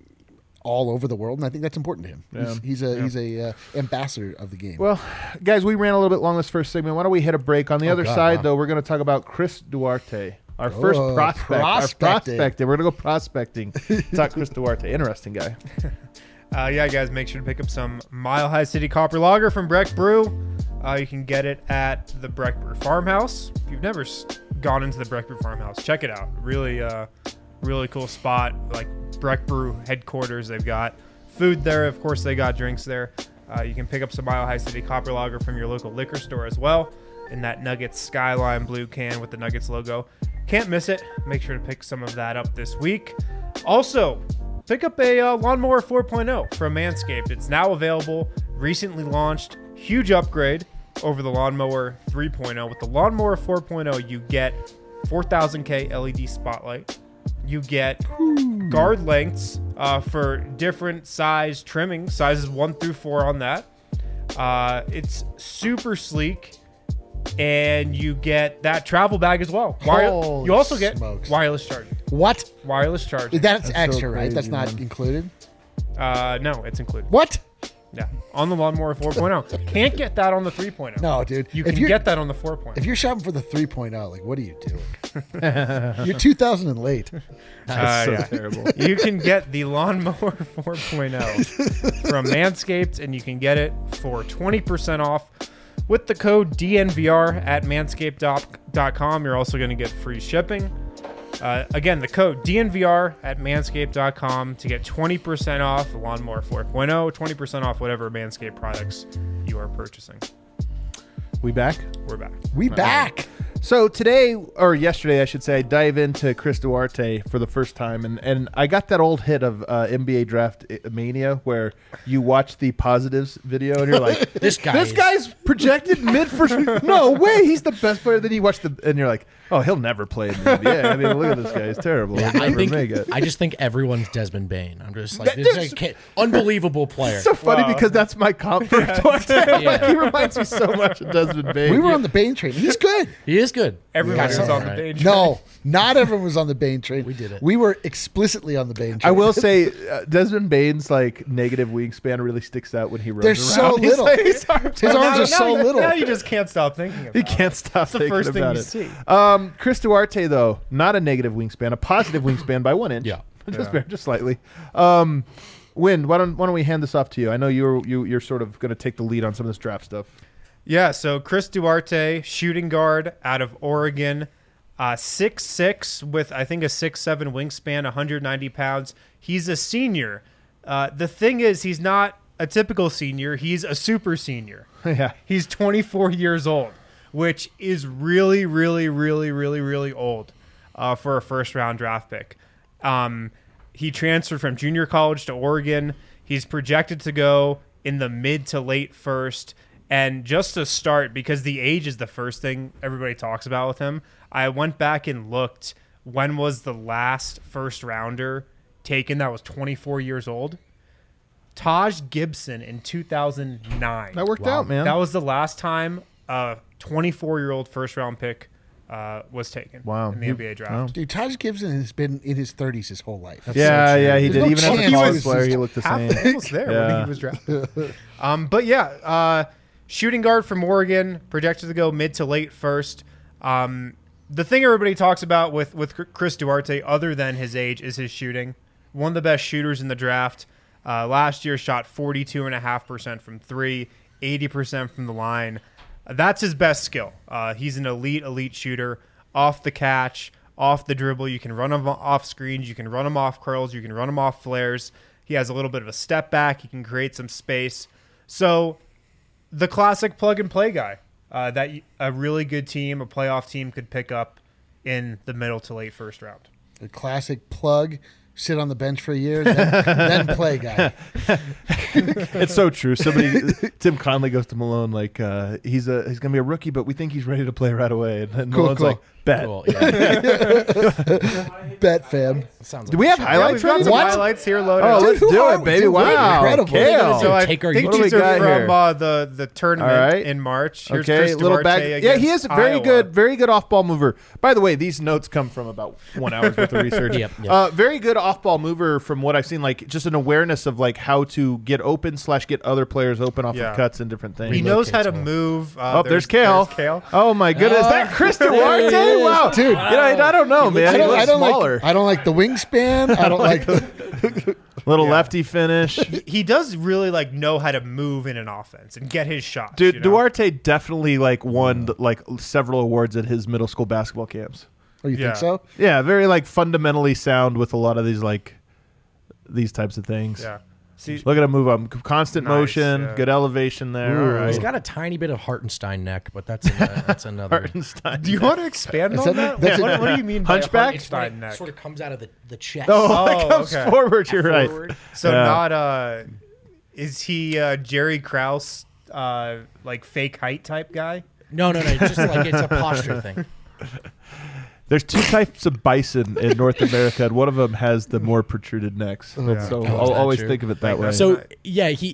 all over the world, and I think that's important to him. Yeah. He's, he's a he's a uh, ambassador of the game. Well, guys, we ran a little bit long this first segment. Why don't we hit a break? On the Oh, other God, side, wow. though, we're going to talk about Chris Duarte, our first Oh, prospect. Our prospecting. prospecting. We're going to go prospecting. Talk Chris Duarte. Interesting guy. Uh, yeah, guys, make sure to pick up some Mile High City Copper Lager from Breck Brew. Uh, you can get it at the Breck Brew Farmhouse. If you've never s- gone into the Breck Brew Farmhouse, check it out. Really, uh, really cool spot. Like Breck Brew headquarters. They've got food there. Of course, they got drinks there. Uh, you can pick up some Mile High City Copper Lager from your local liquor store as well in that Nuggets Skyline blue can with the Nuggets logo. Can't miss it. Make sure to pick some of that up this week. Also, pick up a uh, Lawnmower four point oh from Manscaped. It's now available, recently launched, huge upgrade over the Lawnmower three point oh. With the Lawnmower four point oh, you get four thousand K L E D spotlight. You get guard lengths uh, for different size trimming, sizes one through four on that. Uh, it's super sleek. And you get that travel bag as well. Wire- Holy you also get smokes. wireless charging. What? Wireless charging. That's, That's so extra, right? crazy, That's not man. included. Uh, no, it's included. What? Yeah, on the Lawnmower four point oh. Can't get that on the three point oh. No, dude. You If can you're- get that on the four point oh. If you're shopping for the three point oh, like, what are you doing? You're two thousand and late. That's so Uh, yeah. terrible. You can get the Lawnmower four point oh from Manscaped, and you can get it for twenty percent off with the code D N V R at manscaped dot com. You're also going to get free shipping. Uh, again, the code D N V R at manscaped dot com to get twenty percent off the Lawnmower four point oh, twenty percent off whatever Manscaped products you are purchasing. We back? We're back. We back. So today, or yesterday, I should say, I dive into Chris Duarte for the first time, and, and I got that old hit of uh, N B A Draft Mania where you watch the positives video and you're like, This guy this is- guy's projected mid first. No way, he's the best player. Then you watch the, and you're like, oh, he'll never play in the N B A. I mean, look at this guy, he's terrible. Yeah, He'll I never think make it. I just think everyone's Desmond Bain. I'm just like That- this is there's- a kid, unbelievable player. It's so funny Wow. because that's my comp for Duarte. Like, Yeah. he reminds me so much of Desmond Bain. We were on the Bain train. He's good. He is good. Everyone Got was something on the right. page. No, not everyone was on the Bain train. We did it. We were explicitly on the Bain train. I will say, uh, Desmond Bain's like negative wingspan really sticks out when he runs They're around. so He's little. like- his arms His are arms out. are so you, little. Now you just can't stop thinking about He it. can't stop It's the thinking first thing about you it. see. Um, Chris Duarte, though, not a negative wingspan, a positive wingspan by one inch. Yeah. just, Yeah. just slightly. Um, Win, why don't why don't we hand this off to you? I know you're you, you're sort of going to take the lead on some of this draft stuff. Yeah, so Chris Duarte, shooting guard out of Oregon, uh, six six with, I think, a six seven wingspan, one hundred ninety pounds. He's a senior. Uh, the thing is, he's not a typical senior. He's a super senior. Yeah. He's twenty-four years old, which is really, really, really, really, really old uh, for a first-round draft pick. Um, he transferred from junior college to Oregon. He's projected to go in the mid to late first. And just to start, because the age is the first thing everybody talks about with him, I went back and looked when was the last first rounder taken that was twenty-four years old. Taj Gibson in two thousand nine. That worked Wow. out, man. That was the last time a twenty-four-year-old first-round pick uh, was taken Wow. in the He- N B A draft. wow. Dude, Taj Gibson has been in his thirties his whole life. yeah, yeah, he There's did. no Even as a chance college he was player, just he looked the Half same. almost there when Yeah. he was drafted. um, but yeah, uh, shooting guard from Oregon, projected to go mid to late first. Um, the thing everybody talks about with, with Chris Duarte, other than his age, is his shooting. One of the best shooters in the draft. Uh, last year shot forty-two point five percent from three, eighty percent from the line. Uh, that's his best skill. Uh, he's an elite, elite shooter. Off the catch, off the dribble. You can run him off screens. You can run him off curls. You can run him off flares. He has a little bit of a step back. He can create some space. So the classic plug-and-play guy uh, that y- a really good team, a playoff team, could pick up in the middle to late first round. A classic plug, sit on the bench for a year, then, then play guy. It's so true. Somebody, Tim Conley goes to Malone like uh, he's a he's gonna be a rookie, but we think he's ready to play right away. And then Cool, Malone's cool. like, bet. Cool, yeah. Bet, fam. Sounds Do like we a have show. Yeah, highlights we've got ready? some What? highlights here loaded. Oh, up. let's Dude, who do are it, we? baby! Dude, we're Wow, incredible. Kale. So I Take our think What do we these are got from here? uh, the the tournament All right. in March. Here's Okay, Chris little Duarte bag. Yeah, he against is a very Iowa. good, very good off-ball mover. By the way, these notes come from about one hour's worth of research. Yep, yep. Uh, very good off-ball mover from what I've seen. Like just an awareness of like how to get open slash get other players open off Yeah. of cuts and different things. He knows how to Relocates well. move. Uh, Oh, there's, Kale. There's Kale. Oh my goodness, Oh. that Chris Duarte? There he is. Wow, Dude. You know, I don't know, man. I He don't, looks I don't smaller. like. I don't like the wingspan. I don't like. The, Little Yeah. lefty finish. He does really like know how to move in an offense and get his shots. Dude, you know? Duarte definitely like won like several awards at his middle school basketball camps. oh, you Yeah. think so? Yeah, very like fundamentally sound with a lot of these like these types of things. Yeah. See, Look at him move up. Constant Nice, motion, yeah. good elevation there. Ooh. All right. He's got a tiny bit of Hartenstein neck, but that's an, that's another. Hartenstein. do you want to expand Is on that- that? that's a- What, what do you mean by Hunchback? It's when Hartenstein it neck? sort of comes out of the, the chest. Oh, Oh, it comes okay. forward. You're right. Forward. So Yeah. not uh, is he uh, Jerry Krause uh like fake height type guy? No, no, no. It's just like it's a posture thing. There's two types of bison in North America, and one of them has the more protruded necks. Yeah. So Oh, is I'll that always true? think of it that Like way. that. So yeah, he.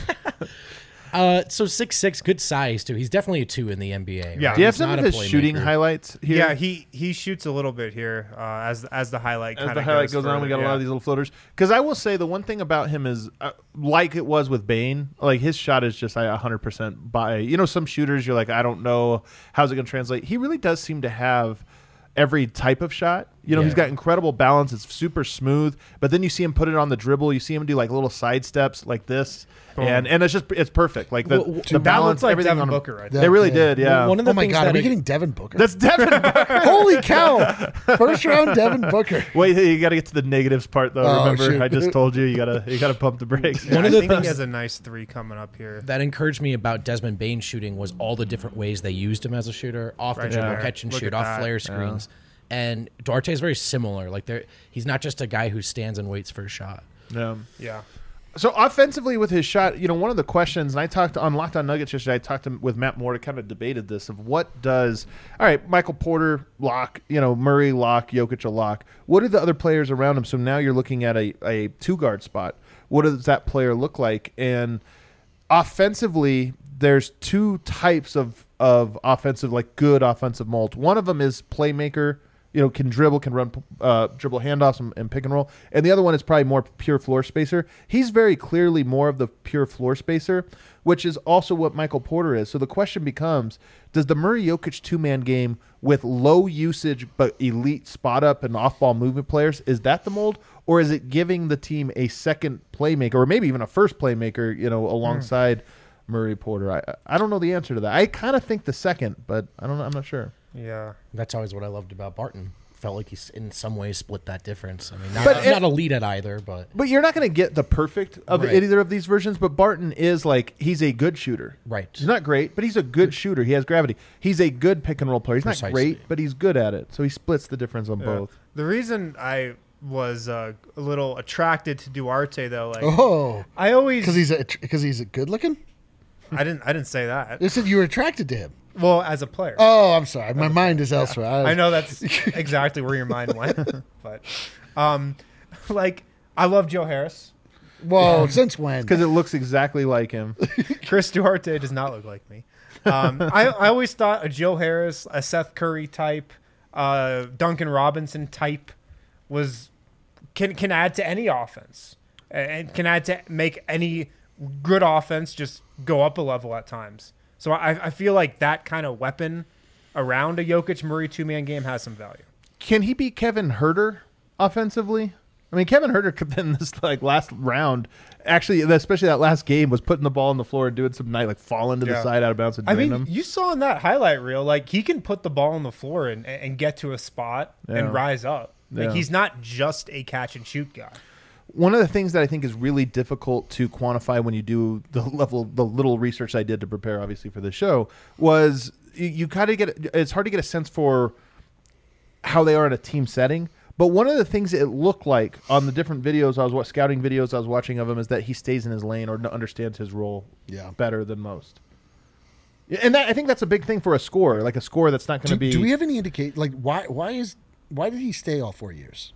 uh, so six six, good size too. He's definitely a two in the N B A. Yeah. right? do you have He's some not of a his shooting playmaker. highlights here? Yeah, he he shoots a little bit here uh, as as the highlight As kind the of highlight goes on, we got a lot of these little floaters. Because I will say the one thing about him is, uh, like it was with Bane, like his shot is just like one hundred percent by. You know, some shooters you're like, I don't know how's it going to translate. He really does seem to have every type of shot. You know, Yeah. he's got incredible balance. It's super smooth. But then you see him put it on the dribble. You see him do like little side steps like this, and and it's just it's perfect. Like the, Well, well, the That balance, looks like everything Devin on him. Booker right That- They really yeah. did, yeah. One of the Oh my things God, that are we I- getting Devin Booker? That's Devin Booker. Holy cow! First round Devin Booker. Wait, you got to get to the negatives part though. Oh, Remember, shoot. I just told you you gotta you gotta pump the brakes. Yeah, One of I the think he things- has a nice three coming up here. that encouraged me about Desmond Bain shooting was all the different ways they used him as a shooter, off the Right dribble, there. catch and Look shoot, at off that. flare screens. And Duarte is very similar. Like they're, he's not just a guy who stands and waits for a shot. Yeah. Yeah. So offensively with his shot, you know, one of the questions, and I talked on Locked On Nuggets yesterday, I talked to, with Matt Moore to kind of debated this of what does, all right, Michael Porter, lock, you know, Murray, lock, Jokic, a lock. What are the other players around him? So now you're looking at a, a two-guard spot. What does that player look like? And offensively, there's two types of, of offensive, like good offensive mold. One of them is playmaker, you know, can dribble, can run uh, dribble handoffs and, and pick and roll. And the other one is probably more pure floor spacer. He's very clearly more of the pure floor spacer, which is also what Michael Porter is. So the question becomes, does the Murray Jokic two-man game with low usage but elite spot up and off-ball movement players, is that the mold? Or is it giving the team a second playmaker or maybe even a first playmaker, you know, alongside Murray Porter? I I don't know the answer to that. I kind of think the second, but I don't know. I'm not sure. Yeah. That's always what I loved about Barton. Felt like he's in some ways split that difference. I mean, not, But it- not elite at either, but But you're not going to get the perfect of Right. either of these versions. But Barton is like, he's a good shooter. right. He's not great, but he's a good shooter. He has gravity. He's a good pick and roll player. He's Precisely. not great, but he's good at it. So he splits the difference on Yeah. both. The reason I was uh, a little attracted to Duarte though, like Oh, I always because he's a because he's a good looking. I didn't I didn't say that. You said you were attracted to him. Well, as a player. Oh, I'm sorry. My mind is elsewhere. I know that's exactly where your mind went, but um, like I love Joe Harris. Well, since when? Because it looks exactly like him. Chris Duarte does not look like me. Um, I, I always thought a Joe Harris, a Seth Curry type, uh, Duncan Robinson type was can can add to any offense and can add to make any good offense just go up a level at times. So I, I feel like that kind of weapon around a Jokic Murray two man game has some value. Can he beat Kevin Herter offensively? I mean, Kevin Herter could in this like last round, actually, especially that last game, was putting the ball on the floor and doing some night like falling to the Yeah. side out of bounds and I drain mean, them. you saw in that highlight reel, like he can put the ball on the floor and, and get to a spot Yeah. and rise up. Like Yeah. he's not just a catch and shoot guy. One of the things that I think is really difficult to quantify when you do the level, the little research I did to prepare, obviously, for the show, was you, you kind of get, it's hard to get a sense for how they are in a team setting. But one of the things it looked like on the different videos I was what scouting videos I was watching of him is that he stays in his lane or understands his role Yeah. better than most. Yeah, and that, I think that's a big thing for a scorer, like a scorer that's not going to Do, be. do we have any indicate like why why is why did he stay all four years?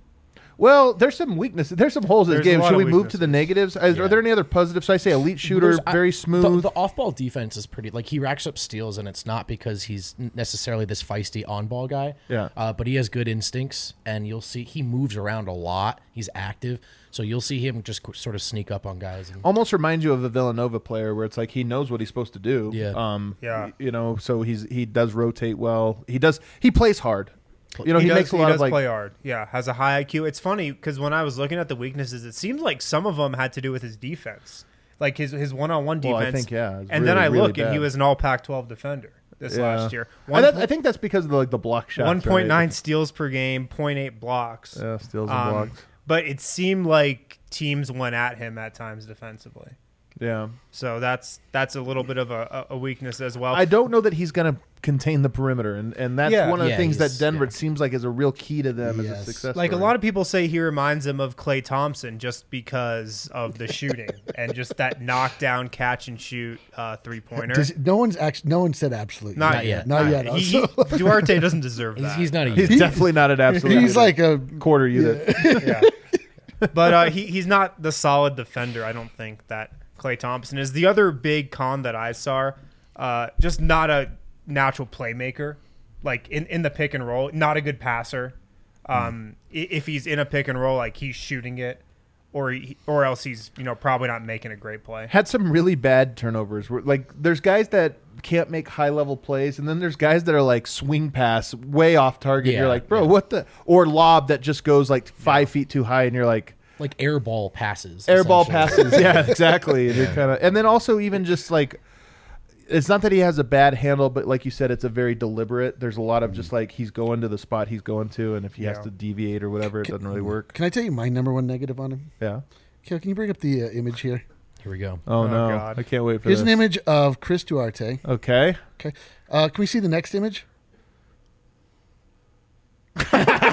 Well, there's some weaknesses. There's some holes in his There's a game. lot Should we of move to the negatives? Is, Yeah. Are there any other positives? Should I say elite shooter, There's- I- very The, smooth? the off-ball defense is pretty. Like he racks up steals, and it's not because he's necessarily this feisty on-ball guy. Yeah. Uh, but he has good instincts, and you'll see he moves around a lot. He's active, so you'll see him just qu- sort of sneak up on guys. And, Almost reminds you of a Villanova player where it's like he knows what he's supposed to do. Yeah. Um, Yeah. You know, so he's he does rotate well. He does. He plays hard. You know, he, he, does, makes a he lot does of like. play hard. Yeah, has a high I Q. It's funny because when I was looking at the weaknesses, it seems like some of them had to do with his defense, like his his one on one Well, defense. I think, yeah, it's And then really, I really look and he bad. was an All Pac twelve defender this Yeah. last year. I, One, that- I think that's because of the, like the block shots. one point nine right? steals per game, zero point eight blocks. Yeah, steals and Um, blocks. But it seemed like teams went at him at times defensively. Yeah. So that's that's a little bit of a, a weakness as well. I don't know that he's going to contain the perimeter, and, and that's Yeah. one of the Yeah, things that he's- Denver yeah. it seems like is a real key to them as a Yes. success. Like a story. lot of people say he reminds them of Klay Thompson just because of the shooting and just that knockdown catch and shoot uh, three pointer. Does, no one's actually no one said absolutely. Not, Not yet. yet. Not yet. He, he, Duarte doesn't deserve he's, that. he's not a. He's He- definitely not an absolute. He's like a quarter unit. yeah. But uh, he, he's not the solid defender, I don't think, that Klay Thompson is. The other big con that I saw, uh, just not a natural playmaker. Like in, in the pick and roll, not a good passer. Um, i If he's in a pick and roll, like he's shooting it, or he, or else he's you know probably not making a great play. Had some really bad turnovers. Where, like, there's guys that can't make high level plays, and then there's guys that are like swing pass way off target. Yeah, You're like, bro, yeah. what the? Or lob that just goes like five feet too high, and you're like, like air ball passes. air ball essentially. passes. Yeah, exactly. And, you're kinda, and then also even just like, it's not that he has a bad handle, but like you said, it's a very deliberate. There's a lot of just like he's going to the spot he's going to, and if he has Yeah. to deviate or whatever, it doesn't really work. Can I tell you my number one negative on him? Yeah. Can, can you bring up the uh, image here? Here we go. Oh, Oh, no, God. I can't wait for Here's this. an image of Chris Duarte. Okay. Okay. Uh, can we see the next image? What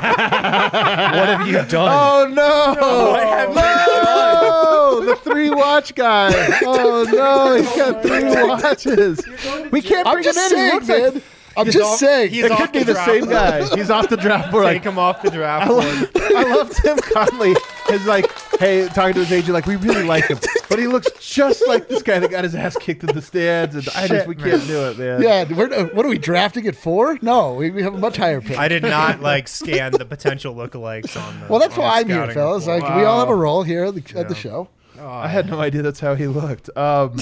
have you done? Oh no! No! The three watch guy. Oh no! He's got three watches. We can't I'm bring him just in. He saying, looks like man. I'm He's just off- saying. he's it off could be the the draft same board. guy. He's off the draft board. Take Like, him off the draft I board. love, I love Tim Conley. Is like, hey, talking to his agent, like we really like him, but he looks just like this guy that got his ass kicked in the stands, and I just Shit, we man. can't do it, man. Yeah, we're, uh, what are we drafting it for? No, we, we have a much higher pick. I did not like scan the potential lookalikes on the. well, that's on the why I'm here, scouting fellas. report. Like we all have a Wow. role here at the, at the Yeah. show. I had no idea that's how he looked. Um,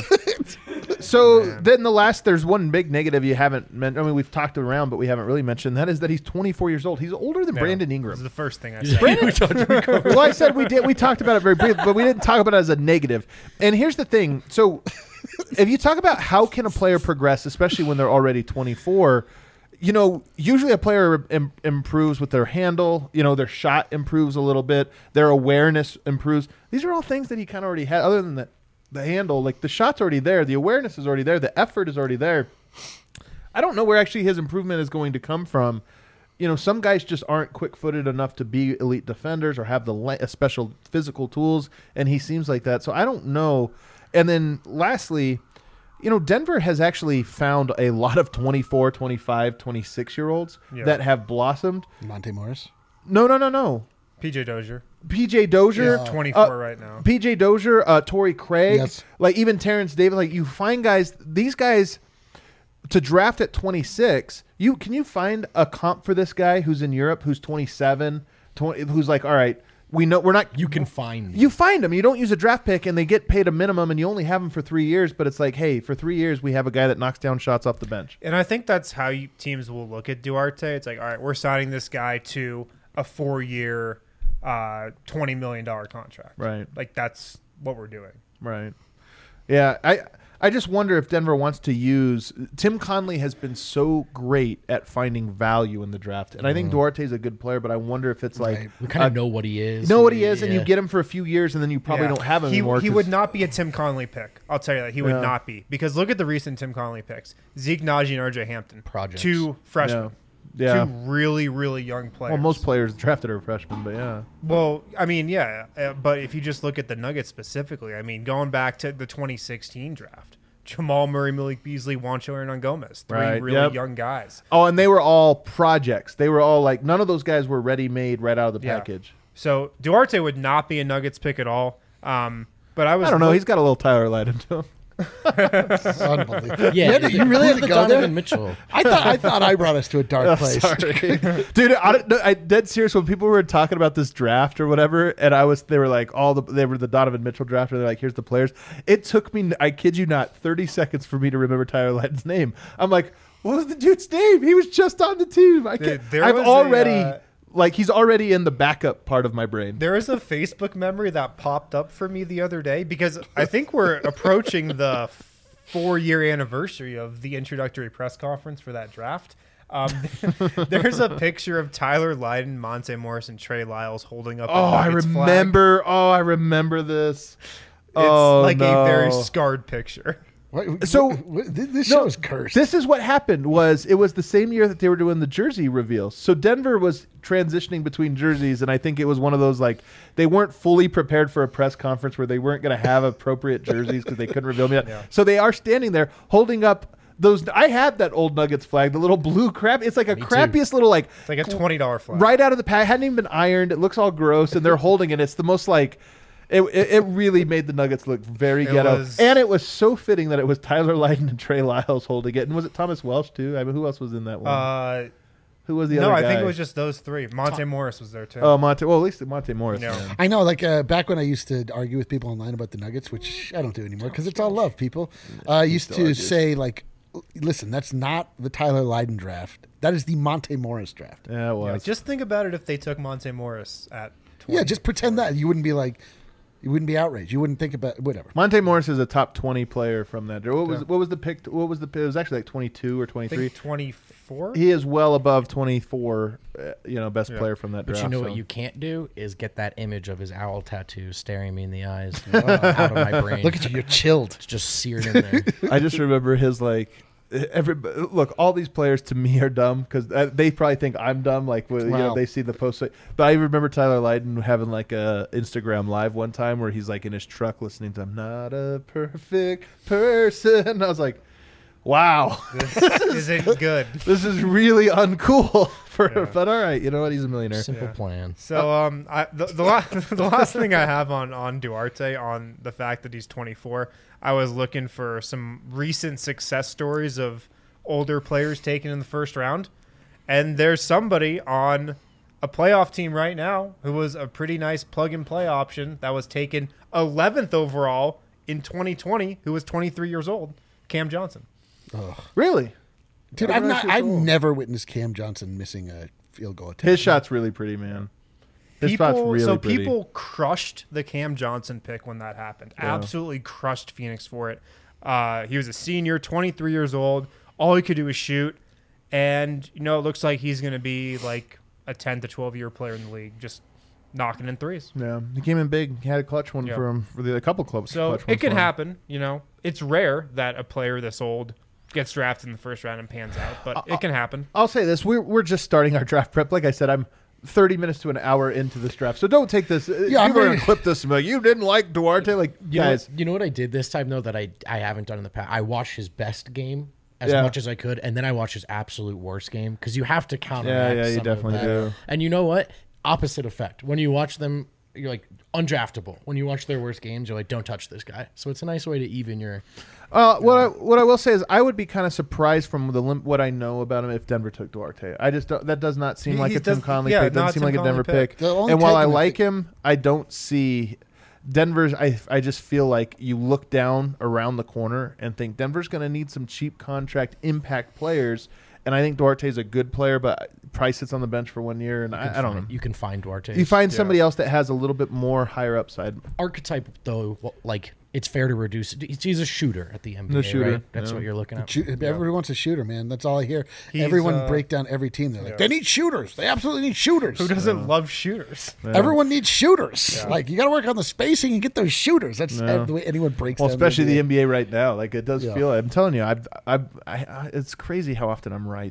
so Man. then the last, there's one big negative you haven't mentioned. I mean, we've talked around, but we haven't really mentioned. That is that he's twenty-four years old. He's older than Yeah. Brandon This is Ingram. the first thing I said. well, I said we did. We talked about it very briefly, but we didn't talk about it as a negative. And here's the thing. So if you talk about how can a player progress, especially when they're already twenty-four, you know, usually a player Im- improves with their handle. You know, their shot improves a little bit. Their awareness improves. These are all things that he kind of already had. Other than the the handle, like the shot's already there, the awareness is already there, the effort is already there. I don't know where actually his improvement is going to come from. You know, some guys just aren't quick-footed enough to be elite defenders or have the le- uh, special physical tools, and he seems like that. So I don't know. And then lastly, you know, Denver has actually found a lot of twenty-four, twenty-five, twenty-six-year-olds Yeah. that have blossomed. Monte Morris. No, no, no, no. P J Dozier, P J Dozier. Yeah. twenty-four Uh, right now. P J Dozier, uh, Torrey Craig, Yes. like even Terrence Davis. Like you find guys, these guys to draft at twenty-six. You can you find a comp for this guy who's in Europe, who's twenty-seven, twenty, who's like, all right, we know we're not. You can find. You find them. You don't use a draft pick, and they get paid a minimum, and you only have them for three years. But it's like, hey, for three years, we have a guy that knocks down shots off the bench. And I think that's how you, teams will look at Duarte. It's like, all right, we're signing this guy to a four-year, uh, twenty million dollar contract. Right. Like that's what we're doing. Right. Yeah, I I just wonder if Denver wants to use Tim Conley has been so great at finding value in the draft, and I think Duarte's a good player, but I wonder if it's like Right. we kind of uh, know what he is. know what he is, and you Yeah. get him for a few years, and then you probably Yeah. don't have him he, anymore. He 'cause- would not be a Tim Conley pick. I'll tell you that. He would Yeah. not be. Because look at the recent Tim Conley picks. Zeke Naji and R J Hampton. Projects. Two freshmen. Yeah. Yeah. Two really, really young players. Well, most players drafted are freshmen, but yeah. Well, I mean, yeah, uh, but if you just look at the Nuggets specifically, I mean, going back to the twenty sixteen draft, Jamal Murray, Malik Beasley, Juancho Hernangomez, three Right, really yep. young guys. Oh, and they were all projects. They were all like, none of those guys were ready-made right out of the Yeah. package. So Duarte would not be a Nuggets pick at all. Um, but I was I don't know. look- He's got a little Tyler Lydon to him. Unbelievable. Yeah, you, had to- you really had who's to the go Donovan there. Mitchell. I thought I thought I brought us to a dark Oh, place. sorry. Dude, I, don't- no, I dead serious when people were talking about this draft or whatever, and I was they were like all the they were the Donovan Mitchell draft, and they're like, here's the players. It took me, I kid you not, thirty seconds for me to remember Tyler Lydon's name. I'm like, what was the dude's name? He was just on the team. I can't, Dude, there I've was a, already uh, like he's already in the backup part of my brain. There is a Facebook memory that popped up for me the other day because I think we're approaching the four-year anniversary of the introductory press conference for that draft. Um, there's a picture of Tyler Lydon, Monte Morris, and Trey Lyles holding up. a Oh, I Nuggets flag. remember. Oh, I remember this. It's oh, like no. a very scarred picture. What- So- what- this No, show is cursed. This is what happened. Was it was the same year that they were doing the jersey reveals. So Denver was transitioning between jerseys, and I think it was one of those like they weren't fully prepared for a press conference where they weren't going to have appropriate jerseys because they couldn't reveal them yet. Yeah. So they are standing there holding up those. I had that old Nuggets flag, the little blue crap. It's like a Me too. crappiest little like It's like a twenty dollar flag. right out of the pack. Hadn't even been ironed. It looks all gross, and they're holding it. It's the most like. It, it, it really made the Nuggets look very It ghetto. was- And it was so fitting that it was Tyler Lydon and Trey Lyles holding it. And was it Thomas Welsh, too? I mean, who else was in that one? Uh, who was the no, other I guy? think it was just those three. Monte Morris was there too. Oh, Monte. Well, at least Monte Morris. No. man. I know, like uh, back when I used to argue with people online about the Nuggets, which I don't do anymore because it's all love, people. Uh, I used still to argues. say, like, listen, that's not the Tyler Lydon draft. That is the Monte Morris draft. Yeah, it Yeah, was. just think about it if they took Monte Morris at twenty. Yeah, just pretend that. You wouldn't be like, you wouldn't be outraged. You wouldn't think about whatever. Monte Morris is a top twenty player from that. What was Yeah. what was the pick? What was the? It was actually like twenty-two or I twenty-three. think twenty-four. He is well above twenty-four. Uh, you know, best Yeah. player from that But draft. you know so. what you can't do is get that image of his owl tattoo staring me in the eyes out of my brain. Look at you, you're chilled. It's just seared in there. I just remember his like. Every look, all these players to me are dumb because they probably think I'm dumb. Like when, you know, Wow. they see the post. But I remember Tyler Lydon having like a Instagram live one time where he's like in his truck listening to "I'm Not a Perfect Person." I was like, "Wow, This isn't good. this is really uncool." For Yeah. but all right, you know what? He's a millionaire. Simple Yeah. plan. So um, I, the the, la- the last thing I have on on Duarte on the fact that he's twenty-four, I was looking for some recent success stories of older players taken in the first round, and there's somebody on a playoff team right now who was a pretty nice plug and play option that was taken eleventh overall in twenty twenty, who was twenty-three years old, Cam Johnson. Really, Dude, Yeah, I've we're not. actually I've cool. never witnessed Cam Johnson missing a field goal attempt. his shot's really pretty, man. His spot's People, really so pretty. people crushed the Cam Johnson pick when that happened. Yeah. Absolutely crushed Phoenix for it. Uh, he was a senior, twenty-three years old. All he could do was shoot, and you know it looks like he's going to be like a ten to twelve year player in the league, just knocking in threes. Yeah, he came in big. He had a clutch one Yeah. for him for the a couple clubs. So clutch ones it can for him. happen. You know, it's rare that a player this old gets drafted in the first round and pans out, but it can happen. I'll say this: we're we're just starting our draft prep. Like I said, I'm thirty minutes to an hour into this draft, so don't take this. Yeah, Yeah, I'm people are ready- gonna clip this and be like, "You didn't like Duarte." Like, You know, guys, you know what I did this time though that I I haven't done in the past. I watched his best game as Yeah. much as I could, and then I watched his absolute worst game because you have to counteract. Yeah, yeah, you some of definitely that. do. And you know what? Opposite effect. When you watch them, you're like undraftable. When you watch their worst games, you're like, don't touch this guy. So it's a nice way to even your. uh, what I what I will say is, I would be kind of surprised from the lim- what I know about him if Denver took Duarte. I just don't, that does not seem He- like he a Tim does- Conley yeah, pick. Doesn't not seem Tim like a Conley Denver pick. pick. They'll only And while take I him if like they- him, I don't see. Denver's, I, I just feel like you look down around the corner and think Denver's going to need some cheap contract impact players. And I think Duarte's a good player, but Price sits on the bench for one year, and I, I don't know. You can find Duarte. You find Yeah. somebody else that has a little bit more higher upside. Archetype though, wh- like it's fair to reduce it. He's- He's a shooter at the N B A, The shooter, right? That's yeah. what you're looking at. Shoot, Everybody wants a shooter, man. That's all I hear. He's, Everyone uh, break down every team. They're like, yeah. they need shooters. They absolutely need shooters. Who doesn't love shooters? Yeah. Everyone needs shooters. Yeah. Like you got to work on the spacing and get those shooters. That's Yeah. the way anyone breaks. Well, down especially the N N B A right now. Like, it does Yeah. feel, I'm telling you, I've, I've, I, I, it's crazy how often I'm right.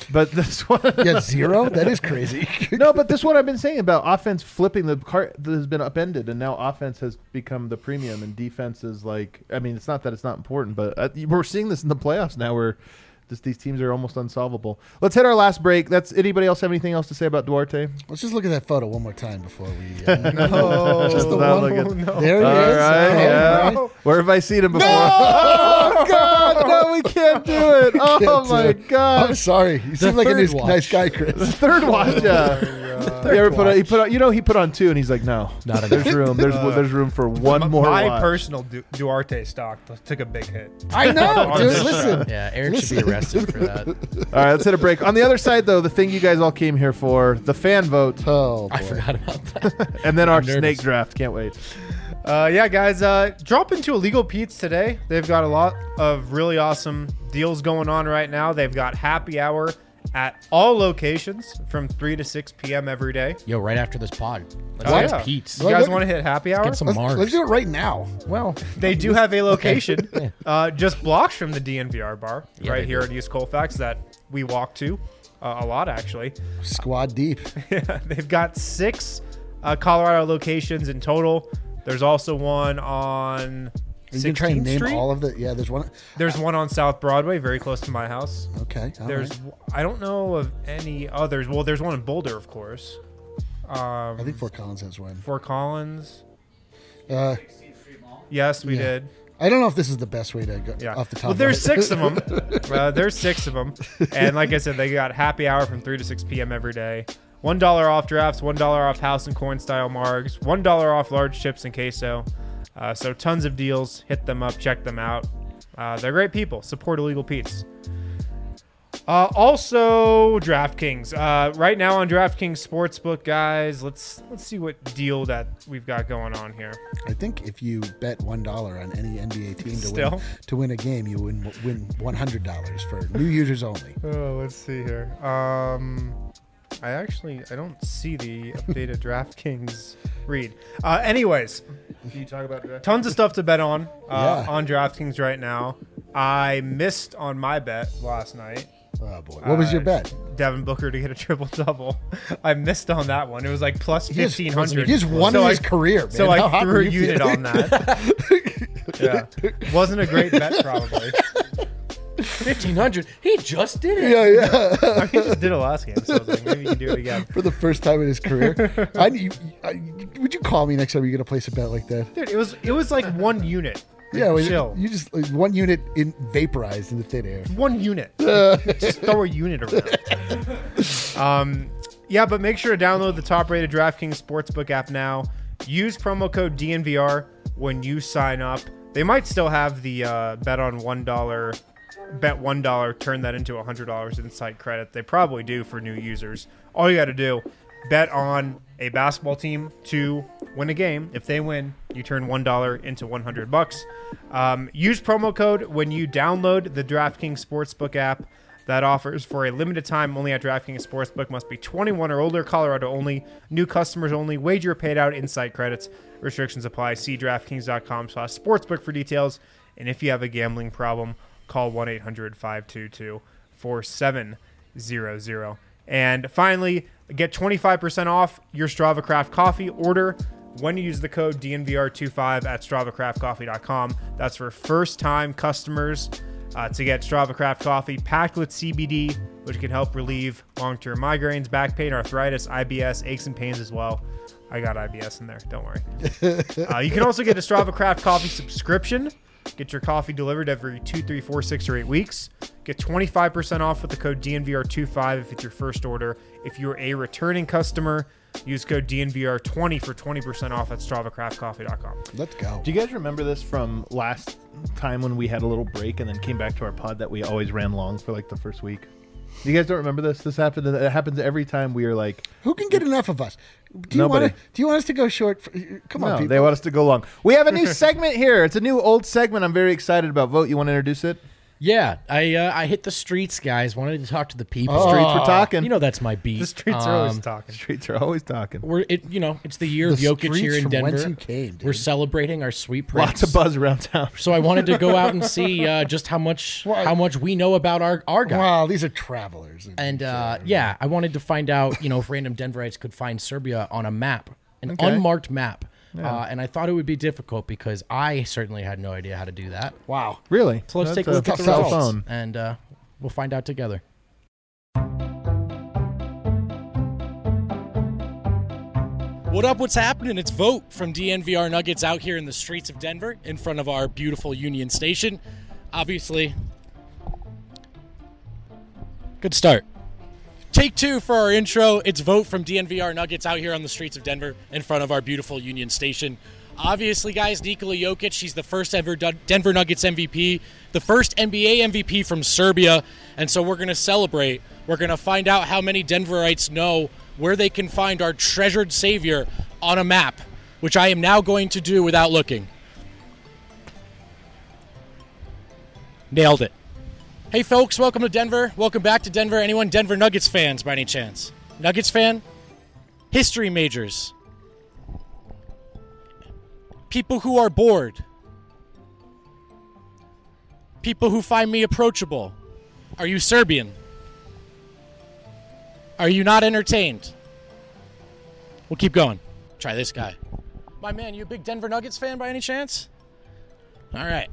But this one, Yeah, zero. That is crazy. no, but this one I've been saying about offense flipping the cart that has been upended, and now offense has become the premium, and defense is like. I mean, it's not that it's not important, but uh, we're seeing this in the playoffs now, where just these teams are almost unsolvable. Let's hit our last break. That's anybody else have anything else to say about Duarte? Let's just look at that photo one more time before we. Uh, No, Just the Not one- looking- no. there he All is. right, Oh, yeah. right. Where have I seen him before? Oh God, no, we can't do it. Oh Can't do my it. I'm God. sorry. You seem like a third nice, watch. nice guy, Chris. Third watch, yeah. You ever put on, he put on, you know, he put on two, and he's like, no, Not there's enough. room. There's there's room for one My- more. My watch. personal Du- Duarte stock took a big hit. I know, On dude. this Listen. Yeah, Eric should be arrested for that. All right, let's hit a break. On the other side, though, the thing you guys all came here for, the fan vote, Oh, boy. I forgot about that. and then our I'm nervous. snake draft. Can't wait. Uh, yeah, guys, uh, drop into Illegal Pete's today. They've got a lot of really awesome deals going on right now. They've got happy hour at all locations from three to six p.m. every day. Yo, right after this pod, let's Oh, get yeah. Pete's. You guys look- want to hit happy hour? Get some Let's, Mars. let's do it right now. Well, They do have a location Yeah. uh, just blocks from the D N V R bar Yeah, right they here do. at East Colfax that we walk to uh, a lot, actually. Squad deep. They've got six uh, Colorado locations in total. There's also one on You can try and sixteenth name Street. all of the. Yeah, there's one. There's one on South Broadway, very close to my house. Okay. all There's, right. I don't know of any others. Well, there's one in Boulder, of course. Um, I think Fort Collins has one. Fort Collins. Uh, Yes, we Yeah. did. I don't know if this is the best way to go Yeah. off the top. Well, of there's my head. six of them. Uh, there's six of them, and like I said, they got happy hour from three to six p.m. every day. One dollar off drafts, one dollar off house and coin style margs, one dollar off large chips and queso. Uh, so tons of deals. Hit them up, check them out. Uh, they're great people. Support Illegal Pete's. Uh, also, DraftKings. Uh, right now on DraftKings Sportsbook, guys, let's let's see what deal that we've got going on here. I think if you bet one dollar on any N B A team to Still? win to win a game, you win win one hundred dollars for new users only. Oh, let's see here. Um, I actually I don't see the updated DraftKings read. Uh, anyways, Can you talk about draft? tons of stuff to bet on uh, Yeah. on DraftKings right now. I missed on my bet last night. Oh boy, what was your Uh, bet? Devin Booker to get a triple double. I missed on that one. It was like plus He just- fifteen hundred. He just won in his career, man. So How I hot threw were a you unit feeling? on that. Yeah, wasn't a great bet probably. fifteen hundred. He just did it. Yeah, yeah. He just did it last game, so I was like, maybe you can do it again. For the first time in his career, I, you, I, would you call me next time you're gonna place a bet like that? Dude, it was it was like one unit. Yeah, well, chill. you just like, one unit in vaporized into thin air. One unit. Just throw a unit around. um, yeah, but make sure to download the top-rated DraftKings Sportsbook app now. Use promo code D N V R when you sign up. They might still have the uh, bet on one dollar, bet one dollar, turn that into one hundred dollars in site credit. They probably do for new users. All you got to do, bet on a basketball team to win a game. If they win, you turn one dollar into one hundred bucks. Um, use promo code when you download the DraftKings Sportsbook app. That offers for a limited time only at DraftKings Sportsbook. Must be twenty-one or older. Colorado only. New customers only. Wager paid out in site credits. Restrictions apply. See DraftKings.com slash sportsbook for details. And if you have a gambling problem, call one eight hundred five two two four seven zero zero. And finally, get twenty-five percent off your Strava Craft coffee order when you use the code D N V R twenty-five at strava craft coffee dot com. That's for first-time customers uh, to get Strava Craft coffee packed with C B D, which can help relieve long-term migraines, back pain, arthritis, I B S, aches and pains as well. I got I B S in there. Don't worry. uh, you can also get a Strava Craft coffee subscription. Get your coffee delivered every two, three, four, six, or eight weeks. Get twenty-five percent off with the code D N V R twenty-five if it's your first order. If you're a returning customer, use code D N V R twenty for twenty percent off at strava craft coffee dot com. Let's go. Do you guys remember this from last time when we had a little break and then came back to our pod that we always ran long for like the first week? You guys don't remember this? This happened. It happens every time we are like, Who can get enough of us? Do you Nobody. want to? Do you want us to go short? For, come on, no, people. they want us to go long. We have a new segment here. It's a new old segment I'm very excited about. Vote, you want to introduce it? Yeah, I uh, I hit the streets, guys. Wanted to talk to the people. Oh. Streets were talking. You know that's my beat. The streets are always Um, talking. Streets are always talking. We're it. You know, it's the year The of Jokic here streets in from Denver. whence you came, dude. We're celebrating our sweet prince. Lots of buzz around town. So I wanted to go out and see uh, just how much Well, how much we know about our our guy. Wow, these are travelers. And uh, yeah, I wanted to find out, you know, if random Denverites could find Serbia on a map, an Okay. unmarked map. Uh, and I thought it would be difficult because I certainly had no idea how to do that. Wow. Really? So let's That's take a look at the cell results, phone. and uh, we'll find out together. What up? What's happening? It's Vote from D N V R Nuggets out here in the streets of Denver in front of our beautiful Union Station. Obviously, good start. Take two for our intro. It's Vote from D N V R Nuggets out here on the streets of Denver in front of our beautiful Union Station. Obviously, guys, Nikola Jokic, he's the first ever Denver Nuggets M V P, the first N B A M V P from Serbia, and so we're going to celebrate. We're going to find out how many Denverites know where they can find our treasured savior on a map, which I am now going to do without looking. Nailed it. Hey, folks, welcome to Denver. Welcome back to Denver. Anyone Denver Nuggets fans by any chance? Nuggets fan? History majors. People who are bored. People who find me approachable. Are you Serbian? Are you not entertained? We'll keep going. Try this guy. My man, you a big Denver Nuggets fan by any chance? All right.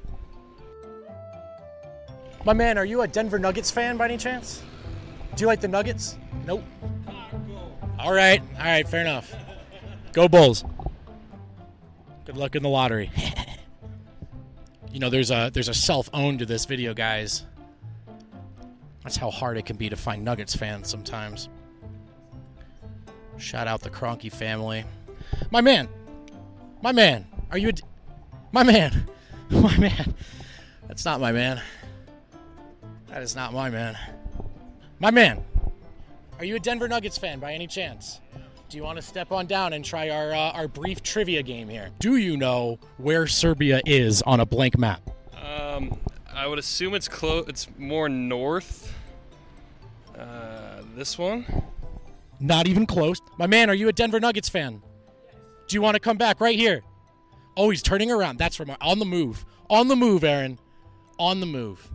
My man, are you a Denver Nuggets fan by any chance? Do you like the Nuggets? Nope. All right. All right, fair enough. Go Bulls. Good luck in the lottery. You know, there's a there's a self-own to this video, guys. That's how hard it can be to find Nuggets fans sometimes. Shout out the Kroenke family. My man. My man. Are you a... D- my man. My man. That's not my man. That is not my man. My man. Are you a Denver Nuggets fan by any chance? Do you want to step on down and try our uh, our brief trivia game here? Do you know where Serbia is on a blank map? Um, I would assume it's close. It's more north. Uh, this one. Not even close. My man, are you a Denver Nuggets fan? Do you want to come back right here? Oh, he's turning around. That's from on the move. On the move, Aaron. On the move.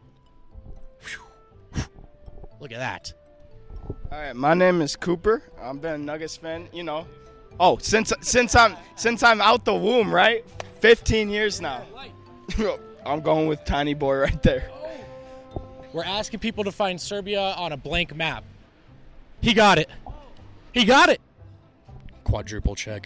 Whew. Look at that. All right, my name is Cooper. I've been a Nuggets fan, you know. Oh, since since I'm since I'm out the womb, right? fifteen years now. I'm going with Tiny Boy right there. We're asking people to find Serbia on a blank map. He got it. He got it. Quadruple check.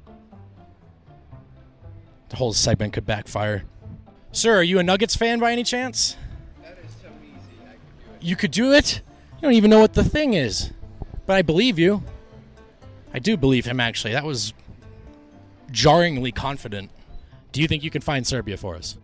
The whole segment could backfire. Sir, are you a Nuggets fan by any chance? That is so easy. I could do it. You could do it? You don't even know what the thing is. But I believe you. I do believe him, actually. That was jarringly confident. Do you think you can find Serbia for us?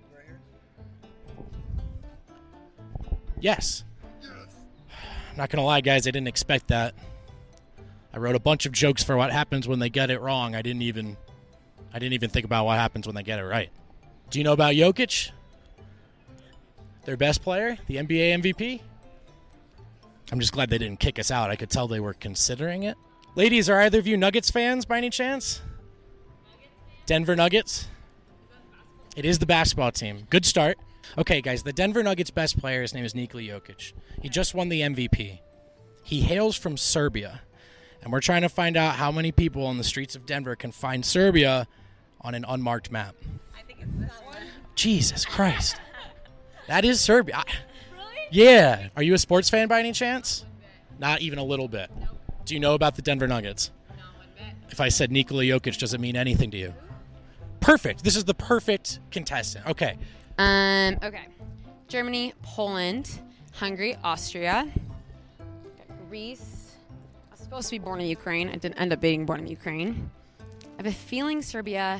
Yes. I'm not going to lie, guys. I didn't expect that. I wrote a bunch of jokes for what happens when they get it wrong. I didn't even I didn't even think about what happens when they get it right. Do you know about Jokic? Their best player? The N B A M V P? I'm just glad they didn't kick us out. I could tell they were considering it. Ladies, are either of you Nuggets fans by any chance? Denver Nuggets? It is the basketball team. Good start. Okay, guys, the Denver Nuggets' best player, his name is Nikola Jokic. He just won the M V P. He hails from Serbia, and we're trying to find out how many people on the streets of Denver can find Serbia on an unmarked map. I think it's this one. Jesus Christ. That is Serbia. I- Really? Yeah. Are you a sports fan by any chance? Not even a little bit. Do you know about the Denver Nuggets? No, one bit. If I said Nikola Jokic, does it mean anything to you? Perfect. This is the perfect contestant. Okay. Um. Okay. Germany, Poland, Hungary, Austria, Greece. I was supposed to be born in Ukraine. I didn't end up being born in Ukraine. I have a feeling Serbia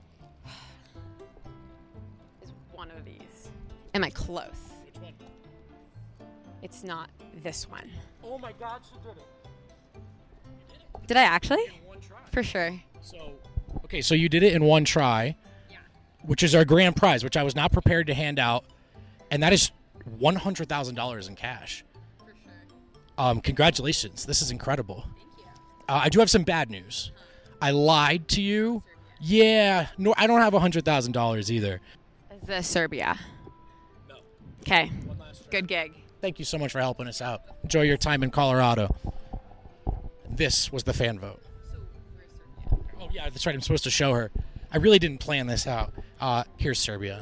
is one of these. Am I close? Which one? It's not this one. Oh my God, she did it. Did I actually? One try. For sure. So, okay, so you did it in one try, Yeah. which is our grand prize, which I was not prepared to hand out and that is one hundred thousand dollars in cash. For sure. Um, congratulations. This is incredible. Thank you. Uh, I do have some bad news. I lied to you. Yeah, no, I don't have one hundred thousand dollars either. Is this Serbia? No. Okay. Good gig. Thank you so much for helping us out. Enjoy your time in Colorado. This was the fan vote. So, where's Serbia? Oh, yeah, that's right. I'm supposed to show her. I really didn't plan this out. Uh, here's Serbia.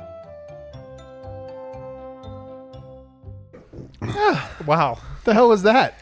Wow. What the hell was that?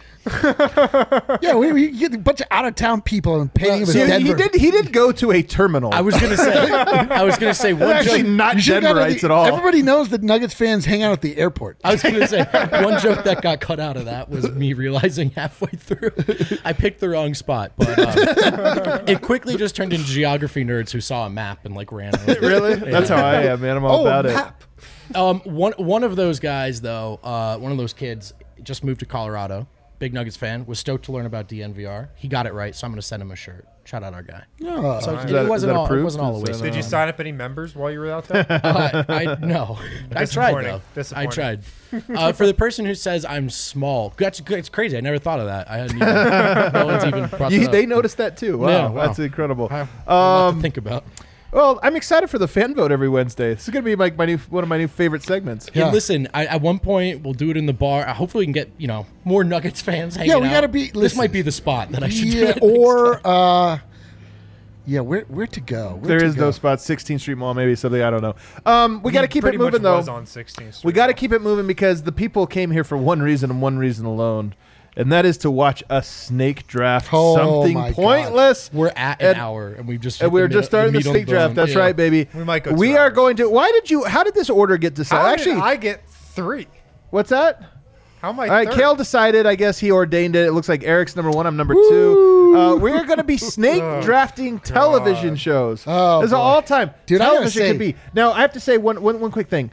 Yeah, we, we get a bunch of out of town people and painting him as See, Denver. he did. He did go to a terminal. I was gonna say. I was gonna say one actually joke. not You should've gone to Denverites the- at all. Everybody knows that Nuggets fans hang out at the airport. I was gonna say one joke that got cut out of that was me realizing halfway through I picked the wrong spot, but um, it quickly just turned into geography nerds who saw a map and like ran. Over it. Really? That's how I am, man. I'm all Oh, about a it. map. Um, one one of those guys though, uh, one of those kids just moved to Colorado. Big Nuggets fan, was stoked to learn about D N V R. He got it right, so I'm going to send him a shirt. Shout out our guy. Oh, So Is it, that- is wasn't that all, it approved? wasn't all a Is waste. that, of Did you time. sign up any members while you were out there? Uh, I no, I tried though. Disappointing. I tried. Uh, for the person who says I'm small, that's, that's crazy. I never thought of that. I hadn't even. No one's even brought You, that up. they noticed that too. Wow, Yeah, wow. that's incredible. I have a lot to Um, think about. well, I'm excited for the fan vote every Wednesday. This is going to be like my new one of my new favorite segments. Yeah. And listen, I, at one point we'll do it in the bar. Uh, hopefully, we can get you know more Nuggets fans hanging Yeah, we out. gotta be- This listen. might be the spot that I should do. yeah, it next or time. uh, yeah, where where to go? Where There to is go? no spot. sixteenth Street Mall, maybe something. I don't know. Um, we got to keep it Pretty moving much though. was on sixteenth Street. We got to keep it moving because the people came here for one reason and one reason alone, and that is to watch a snake draft Oh, something my God. pointless. We're at an and- hour, and we've just And hit we're the just middle- starting the meat on snake draft. bone. That's Yeah. right, baby. We might go two We are hours. going to. Why did you? How did this order get decided? How Actually, did I get three? what's that? How am I? All right, third? Kale decided. I guess he ordained it. It looks like Eric's number one. I'm number two. Uh, we're going to be snake drafting television shows. Oh, This is boy. all time. Dude, I gotta television say- could be. Now, I have to say one, one, one quick thing.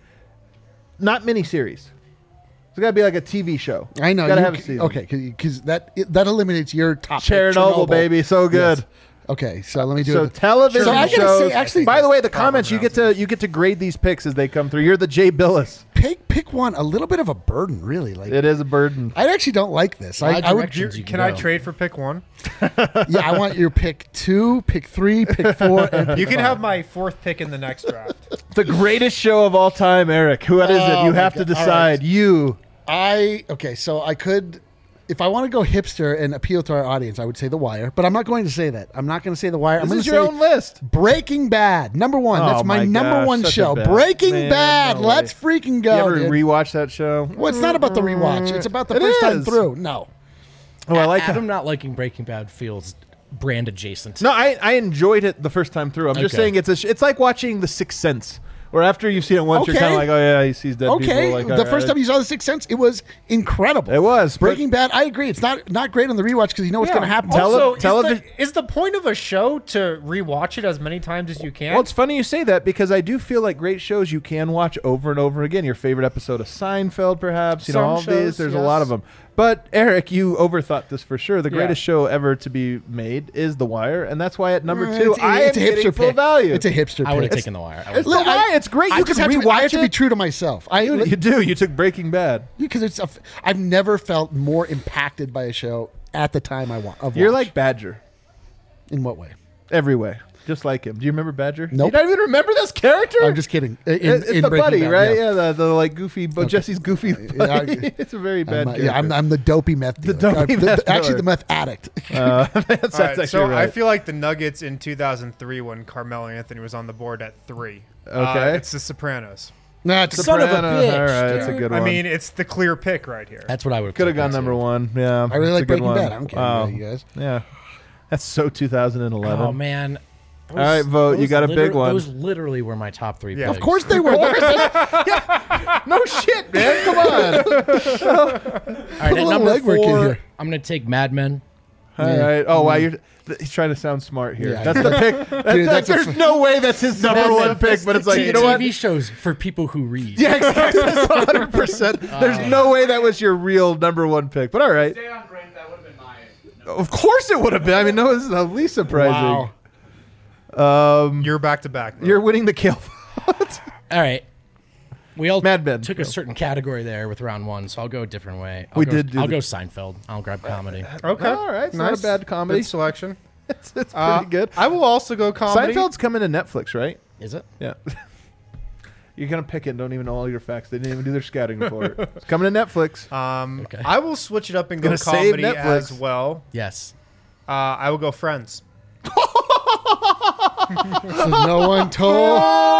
Not miniseries. It's got to be like a T V show. I know. Got to you- have a season. Okay, because that it, that eliminates your top. pick, Chernobyl, baby, so good. Yes. Okay, so let me do So it. television So I gotta shows. say, actually- by the way, the Proper comments you get to you get to grade these picks as they come through. You're the Jay Billis. Pick pick one. A little bit of a burden, really. Like It is a burden. I actually don't like this. I, My I would. directions you Can I go. trade for pick one? Yeah, I want your pick two, pick three, pick four, and pick You can five. have my fourth pick in the next draft. The greatest show of all time, Eric. Who is it? Oh, You my have to God. All decide. right. You. I okay, so I could, if I want to go hipster and appeal to our audience, I would say The Wire, but I'm not going to say that. I'm not going to say The Wire. I'm This going is to your say own list. Breaking Bad, number one. Oh That's my, my number gosh, one such a show. bad- Breaking Man, Bad. no Let's way. freaking You go. ever dude. rewatch that show? well, it's not about the rewatch. It's about the It first time is. through. No. Oh, I like Adam how. not liking Breaking Bad feels brand adjacent. No, I I enjoyed it the first time through. I'm just Okay. saying it's a sh- it's like watching The Sixth Sense, where after you've seen it once, you're Okay. kind of like, oh yeah, he sees dead Okay, people. Like, the all first right. time you saw The Sixth Sense, it was incredible. It was, but- Breaking Bad. I agree. It's not not great on the rewatch because you know what's Yeah. going to happen. Tele- Also, televi- is, the, is the point of a show to rewatch it as many times as you can? Well, it's funny you say that because I do feel like great shows you can watch over and over again. Your favorite episode of Seinfeld, perhaps. You know, Some all of shows, these. There's a yes. lot of them. But Eric, you overthought this for sure. The Yeah. greatest show ever to be made is The Wire, and that's why at number Uh, two, it's, I it's am a getting hipster full pick. value. It's a hipster I would have pick. taken The Wire. I It's would've- The Look, I- Wire. It's great. I You just can have to, I have rewatch to be it. true to myself. I You, you do. You took Breaking Bad. because it's a f- I've never felt more impacted by a show at the time I want. Of You're watch. like Badger. in what way? Every way. Just like him. Do you remember Badger? Nope. You don't even remember this character? I'm just kidding. In, It- it's in the Breaking buddy, Bad, right? Yeah. Yeah, the, the like goofy, but Jesse's goofy buddy. I- it's a very bad I'm, uh, character. yeah, I'm, I'm the dopey meth dealer. dopey Uh, the- meth the- Actually, dealer. the meth addict. Uh, that's, that's All right, actually so right. I feel like the Nuggets in two thousand three when Carmelo Anthony was on the board at three. Okay. Uh, it's The Sopranos. nah, it's Son of a Sopranos, bitch, All right, that's a dude. good I one. mean, it's the clear pick right here. That's what I would could have gone number one. Yeah, I really it's a like good Breaking one. Bad. I don't care Wow. about you guys. Yeah, that's so two thousand eleven. Oh man. Those, All right, vote. You those got a big liter- one. Those literally were my top three Yeah. picks. Of course they were. No shit, man. Come on. All right, a at little number legwork in four, here. I'm going to take Mad Men. All right. Oh wow, you're. th- He's trying to sound smart here. Yeah. That's the pick. That's, Dude, that's a there's f- no way that's his number That's one a pick, but it's like, you know T what? V shows for people who read. Yeah, exactly. That's one hundred percent. There's no way that was your real number one pick. But all right. Stay on Brent, that would have been mine. Of course it would have been. I mean, no, this is the least surprising. Um, You're back to back. though. you're winning the kill vote. All right. We all Mad Men. took a certain category there with round one, so I'll go a different way. I'll We go, did do I'll the- go Seinfeld. I'll grab comedy. Okay. All right. It's not Nice. a bad comedy. Good selection. It's, it's pretty Uh, good. I will also go comedy. Seinfeld's coming to Netflix, right? Is it? Yeah. You're going to pick it and don't even know all your facts. They didn't even do their scouting report. It's coming to Netflix. Um, Okay. I will switch it up and go Gonna save comedy Netflix. as well. Yes. Uh, I will go Friends. So no one told.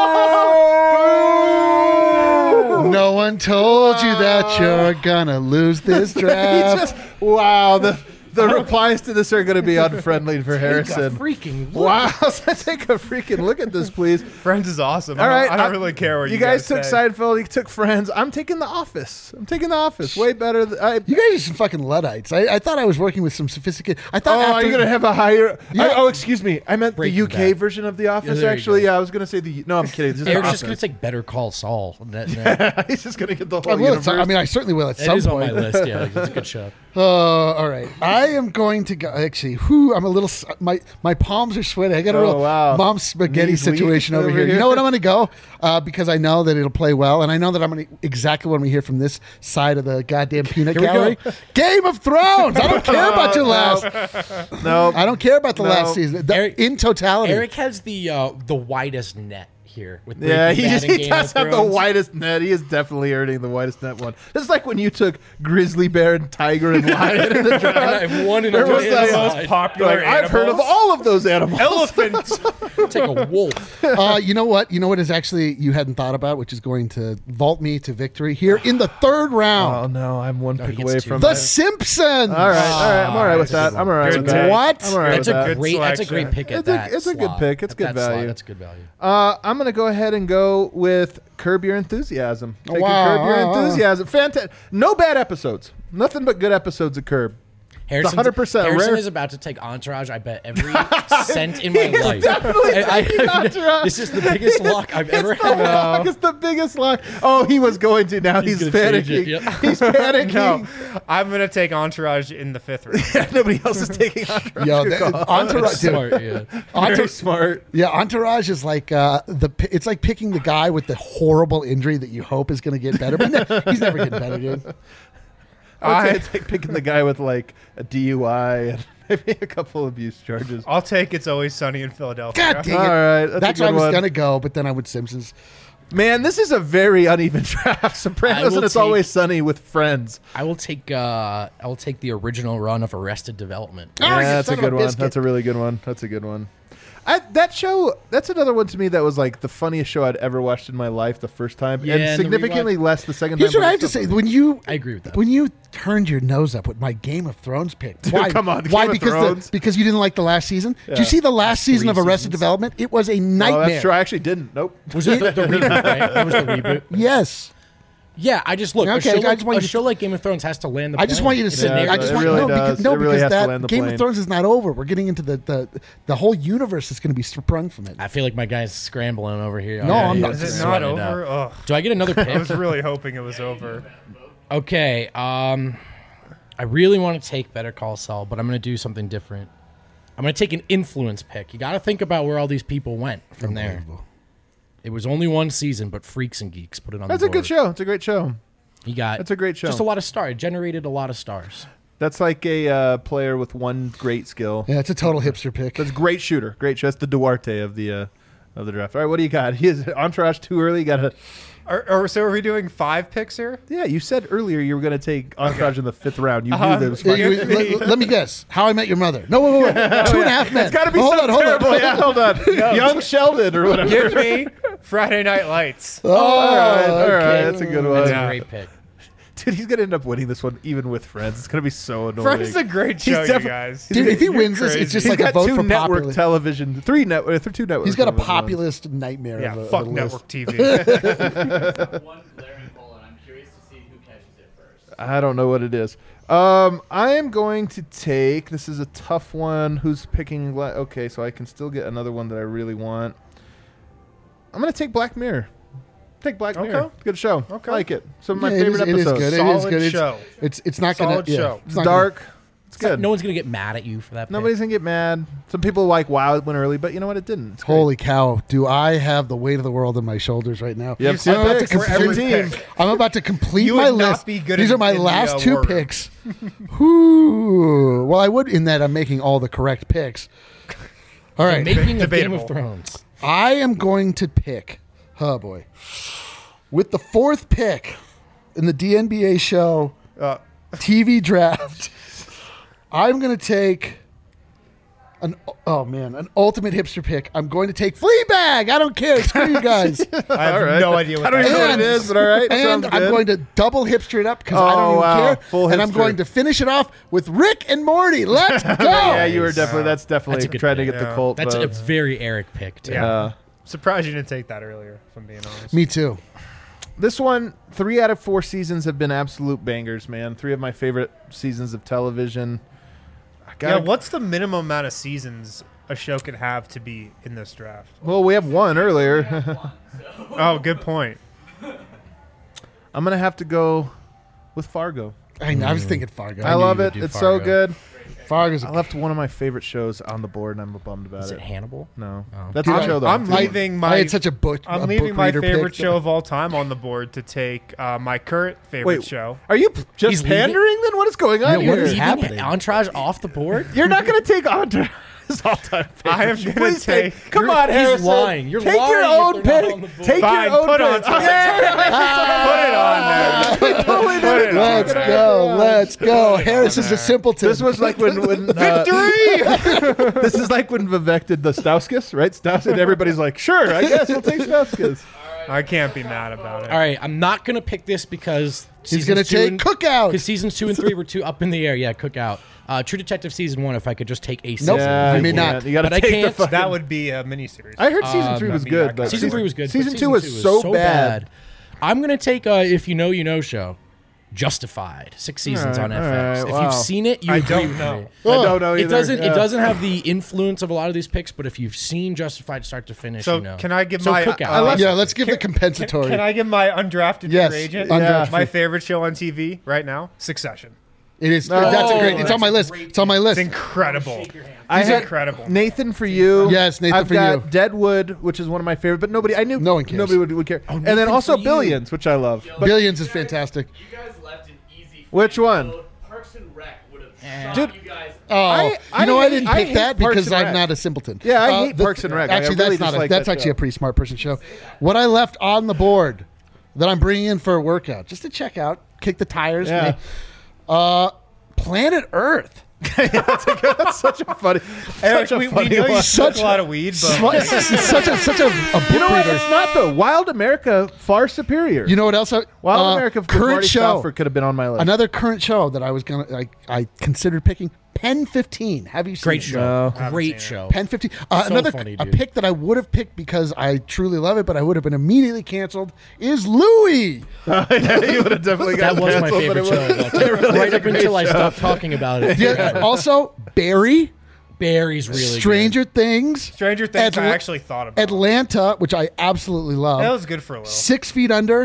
No one told you that you're gonna lose this draft. Wow. The the replies to this are going to be unfriendly for Harrison. Freaking look. Wow. So take a freaking look at this, please. Friends is awesome. All I don't, right. I don't I- really care what you, You guys took say. Seinfeld. You took Friends. I'm taking The Office. I'm taking The Office. Way better. Than, I, You guys are some fucking Luddites. I, I thought I was working with some sophisticated. I thought. Oh, after, are you going to have a higher? Yeah. I- oh, excuse me. I meant Breaking the U K Bad. version of The Office. there you actually, go. yeah, I was going to say the. No, I'm kidding. This is Eric's The just going to Office. take Better Call Saul. That- that- He's just going to get the I, whole will at universe. some- I mean, I certainly will at It some is on point. my list. Yeah, it's a good show. Uh, all right. I am going to go. Actually, whew, I'm a little. s- My my palms are sweaty. I got a Oh, real wow. mom spaghetti Knees weak situation over over here. here. You know what I'm going to go? Uh, because I know that it'll play well, and I know that I'm going to exactly what we hear from this side of the goddamn peanut Here we gallery. go. Game of Thrones. I don't care about your last. no. I don't care about the No. last season. The- Eric- in totality. Eric has the uh, the widest net here with Yeah, Breaking he, Bad just, and he Game does of have the Thrones. widest net. He is definitely earning the widest net one. It's like when you took grizzly bear and tiger and lion in the draft. And I won in a There was way like- aside. most popular Like, I've heard of animals. all of those animals. Elephants. Take a wolf. uh, you know what? You know what is actually you hadn't thought about, which is going to vault me to victory here in the third Oh round. no, I'm one No, he pick gets away two. from The it. Simpsons. All right, all right, I'm all right with That's a that. good I'm all right Good with that. take. What? I'm all right That's with a that. Good great. That's a selection. great pick at It's a- that. it's a good slot. pick. It's At good that slot, value. That's good value. Uh, I'm going to go ahead and go with Curb Your Enthusiasm. Taking Wow. Curb Your Enthusiasm. Fantastic. No bad episodes. Nothing but good episodes of Curb. Harrison's- one hundred percent Harrison rare. is about to take Entourage. I bet every cent in my He is life. definitely I- I- taking Entourage. This is the biggest luck I've ever It's the had. lock. It's the biggest lock. Oh, he was going to. Now he's, He's gonna change panicking. it, yeah. He's panicking. No, I'm gonna take Entourage in the fifth round. Nobody else is taking Entourage. Yo, Good that, call. Entourage, dude, Smart, yeah. Very Entourage, smart. yeah, Entourage is like uh, the. pi- It's like picking the guy with the horrible injury that you hope is going to get better, but ne- he's never getting better, dude. I I, would say it's like picking the guy with like a D U I and maybe a couple abuse charges. I'll take It's Always Sunny in Philadelphia. God dang it! All right, that's, That's a where I good was one. going to go, but then I would Simpsons. Man, this is a very uneven draft. I Sopranos will and It's take- Always Sunny with Friends. I will take. Uh, I will take the original run of Arrested Development. Oh, yeah, you that's a son of a good one. biscuit. That's a really good one. That's a good one. I, that show, that's another one to me that was like the funniest show I'd ever watched in my life the first time, Yeah, and and the significantly less the second Here's time. what but I have to it's still say: when you, I agree with that. when you turned your nose up with my Game of Thrones pick, why? come on, why? Game of because Thrones. The, because you didn't like the last season. Did Yeah. you see the last season of Three Arrested seasons. Development? It was a Oh, nightmare. that's true. I actually didn't. Nope. Was it the, the reboot? Right? It was the reboot. Yes. Yeah, I just look. Okay, a show, I like, just want a you to- show like Game of Thrones has to land the. I just plane. want you to It's sit. a Yeah, I narrative. just it want really no, because, does. no, It really because has to that land the Game plane. of Thrones is not over. We're getting into the the, the whole universe that's going to be sprung from it. I feel like my guy's scrambling over here. No, I'm Already. not. He's Is it sweating not out. over? Ugh. Do I get another I pick? was really hoping it was over. Okay. Um, I really want to take Better Call Saul, but I'm going to do something different. I'm going to take an influence pick. You got to think about where all these people went from there. Unbelievable. It was only one season, but Freaks and Geeks put it on That's the a board. good show. It's a great show. You got That's a great show. Just a lot of stars. It generated a lot of stars. That's like a uh, player with one great skill. Yeah, it's a total hipster pick. That's a great shooter. Great show. That's the Duarte of the uh, of the draft. All right, what do you got? He is Entourage too early. You got to. Are, are, so are we doing five picks here? Yeah, you said earlier you were going to take Entourage in the fifth round. You Uh-huh. knew that was Yeah, fine. you- let, let me guess. How I Met Your Mother. No, wait, wait, wait. Two and a Half Men. It's got to be Oh, hold on, something hold on. terrible. Yeah, hold on. Young Sheldon or whatever. Give me Friday Night Lights. Oh, all right, all right. okay. That's a good That's one. Yeah. a great pick. Dude, he's going to end up winning this one even with Friends. It's going to be so annoying. Friends is a great He's show, you defi- guys. Dude, if he You're wins this, crazy. it's just He's like a got vote two for network popular. television, three network, two network. He's got a television ones. populist nightmare. Yeah, of a, fuck of a network list. T V. One glaring hole, and I'm curious to see who catches it first. I don't know what it is. Um, I am going to take. This is a tough one. Who's picking? la- Okay, so I can still get another one that I really want. I'm going to take Black Mirror. Take Black Okay. Mirror. Good show. Okay. I like it. Some of my Yeah, it favorite is- it is episodes. good. It is Solid good. It's- show. It's it's not Solid gonna. Yeah, show. it's It's not dark. It's It's like good. no one's gonna get mad at you for that. pick. Nobody's gonna get mad. Some people like, wow, it went early, but you know what? It didn't. It's great. Holy cow! Do I have the weight of the world on my shoulders right now? You have I'm two about to picks for every complete- team. I'm about to complete You my would not list. be good These in- are my in the, last uh, two war room. picks. Whew. Well, I would in that I'm making all the correct picks. All The right, making of Game Debatable. of Thrones. I am going to pick. Oh boy, with the fourth pick in the D N B A show Uh, T V draft, I'm going to take an oh man, an ultimate hipster pick. I'm going to take Fleabag. I don't care. Screw you guys. I have All right. no idea what I don't that even know what And- it is, but all right. And Sounds I'm good. going to double hipster it up because I don't Oh, even wow. care. Full and I'm hipster. going to finish it off with Rick and Morty. Let's go. Yeah, you were definitely. That's definitely That's a good trying to pick. get the Yeah. Colt That's a votes. very Eric pick too. Yeah. Uh, Surprised you didn't take that earlier, if I'm being honest. Me too. this one, three out of four seasons have been absolute bangers, man. Three of my favorite seasons of television. I Yeah, gotta, what's the minimum amount of seasons a show could have to be in this draft? Well, we have one earlier. Oh, good point. I'm gonna have to go with Fargo. I know. I was thinking Fargo. I, knew love you it. would do It's so Fargo. good. Fargo's. I left one of my favorite shows on the board, and I'm bummed about Is it. it Hannibal? No, Oh. that's Dude, a show though. I'm I- leaving I my had such a book. I'm a leaving book my reader favorite pick. show of all time on the board to take uh, my current favorite Wait, show. Are you p- just He's leaving- pandering? Then what is going on Yeah, what here? is Leaving happening? Entourage off the board? You're not gonna take Entourage all-time favorite. I am show. gonna Please take. take- Come You're- on, he's Harrison. lying. You're take your lying own if they're not pick. on the board. Take Fine, your own put pick. on Put it on there. Totally Put it on Let's there. go. Let's go. Harris is a simpleton. This was like when, when uh, Victory! this is like when Vivek did the Stauskas, right? Stauskas, and everybody's like, sure, I guess we'll take Stauskas. I can't be mad about it. All right, I'm not gonna pick this because He's going to take Cookout. because seasons two and three were too up in the air. Yeah, Cookout. Uh, True Detective season one. If I could just take a season. Nope. Yeah, I you mean, can't. not. You gotta But I take can't. the fucking. That would be a miniseries. I heard season Um, three was I mean, good, I but got Season three was good. but Season two was so bad. I'm gonna take uh, If You Know, You Know show. Justified. Six seasons All on right, F X. all right, If wow. you've seen it, you I agree don't with know. me. I don't know either. It doesn't. Yeah. It doesn't have the influence of a lot of these picks, but if you've seen Justified start to finish, So you know. can I give so my- Cookout. I love- Yeah, let's give the Can, compensatory. can I give my undrafted Yes, free agent? undrafted My free- favorite show on T V right now, Succession. It is. Oh, that's a great. It's that's on my a list. great It's on my list. It's incredible. I He's had incredible. Nathan for you. Yes, Nathan I've for got you. Deadwood, which is one of my favorite, but nobody. I knew No one cares. Nobody would, would care. and then Nathan also for You. Billions, which I love. But Billions is fantastic. You guys left an easy. Which free one? vote. Parks and Rec would have Eh. shot Dude, you guys. Oh, I- I you know I hate- didn't I pick hate that Parks because and I'm Rec. not a simpleton. Yeah, I Uh, hate the- Parks and Rec. I Actually, really that's not. just A, like that's that actually a show. pretty smart person show. What I left on the board that I'm bringing in for a workout, just to check out, kick the tires. Yeah. Uh, Planet Earth. That's such a funny. Eric, such a we, we funny know you one. smoke Such- a lot of weed, but Sli- such a such a, a book You know what? reader. It's not though. Wild America far superior. You know what else? I, Wild uh, America with current Marty show. Stauffer could have been on my list. Another current show that I was gonna I, I considered picking. Pen fifteen. Have you seen Great it? show. No. haven't Great seen it. show. Pen fifteen. Uh, So another funny, a dude. pick that I would have picked because I truly love it, but I would have been immediately canceled. Is Louis? yeah, you would have definitely That got was my canceled, but favorite it show. was- of all time. really right is a up until I great show. stopped talking about it. Yeah, also, Barry, Barry's really Stranger Things, Stranger Things, I Atla- actually thought about. Atlanta, which I absolutely love. That was good for a little. Six Feet Under,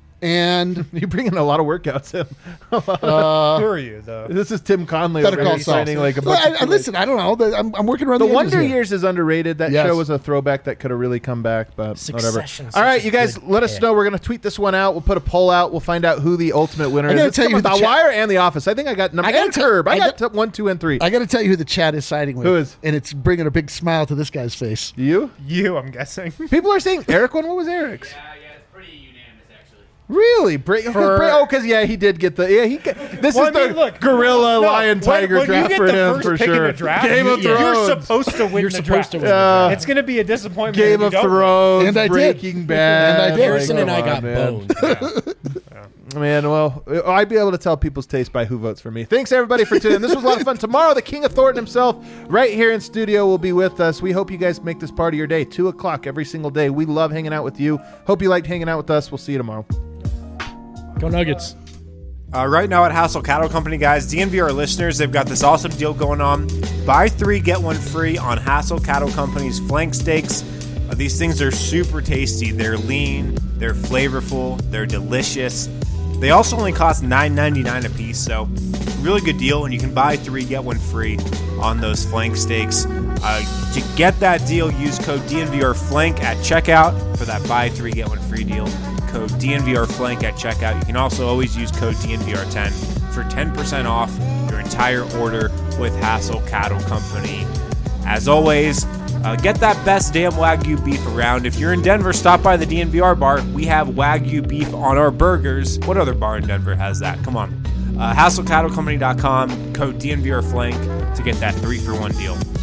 and You bring in a lot of workouts in. Who are you, though? This is Tim Conley Better already Call Saul. signing like a Well, bunch I, I, of listen, I don't know. The- I'm, I'm working around The the, edges Wonder here. Years is underrated. That Yes. show was a throwback that could have really come back, but whatever. Succession's All right, such a you guys, good let us pick. know. We're gonna tweet this one out. We'll put a poll out. We'll find out who the ultimate winner I is. gotta It's tell you from who The the chat- Wire and The Office. I think I got number I gotta and tell- Curb. I, I got got- top one, two, and three. I got to tell you who the chat is siding with. Who is? And it's bringing a big smile to this guy's face. you? You, I'm guessing. People are saying Eric one. What was Eric's? Yeah, yeah, it's pretty unanimous actually. Really? Bra- For- Bra- oh, because yeah, he did get the yeah. He got, this Well, is I the mean, look, gorilla no, lion when- tiger when you draft get for the him first for pick in sure. the draft, Game of you- yeah. Thrones. You're supposed to win You're the supposed draft. to win. Uh, It's going to be a disappointment. Game if you of don't win. Thrones, And I did. Breaking Bad. And I did. Harrison Like, and I come got on, man. boned. Man, well, I'd be able to tell people's taste by who votes for me. Thanks, everybody, for tuning in. This was a lot of fun. Tomorrow, the King of Thornton himself, right here in studio, will be with us. We hope you guys make this part of your day. two o'clock every single day. We love hanging out with you. Hope you liked hanging out with us. We'll see you tomorrow. Go Nuggets. Uh, right now at Hassel Cattle Company, guys, D N V R listeners, they've got this awesome deal going on. Buy three, get one free on Hassel Cattle Company's flank steaks. Uh, these things are super tasty. They're lean, they're flavorful, they're delicious. They also only cost nine ninety-nine a piece, so really good deal, and you can buy three, get one free on those flank steaks. Uh, to get that deal, use code D N V R Flank at checkout for that buy three, get one free deal. Code D N V R Flank at checkout. You can also always use code D N V R ten for ten percent off your entire order with Hassel Cattle Company. As always, uh, get that best damn Wagyu beef around. If you're in Denver, stop by the D N V R bar. We have Wagyu beef on our burgers. What other bar in Denver has that? Come on. Uh, Hassel Cattle Company dot com, code D N V R Flank to get that three for one deal.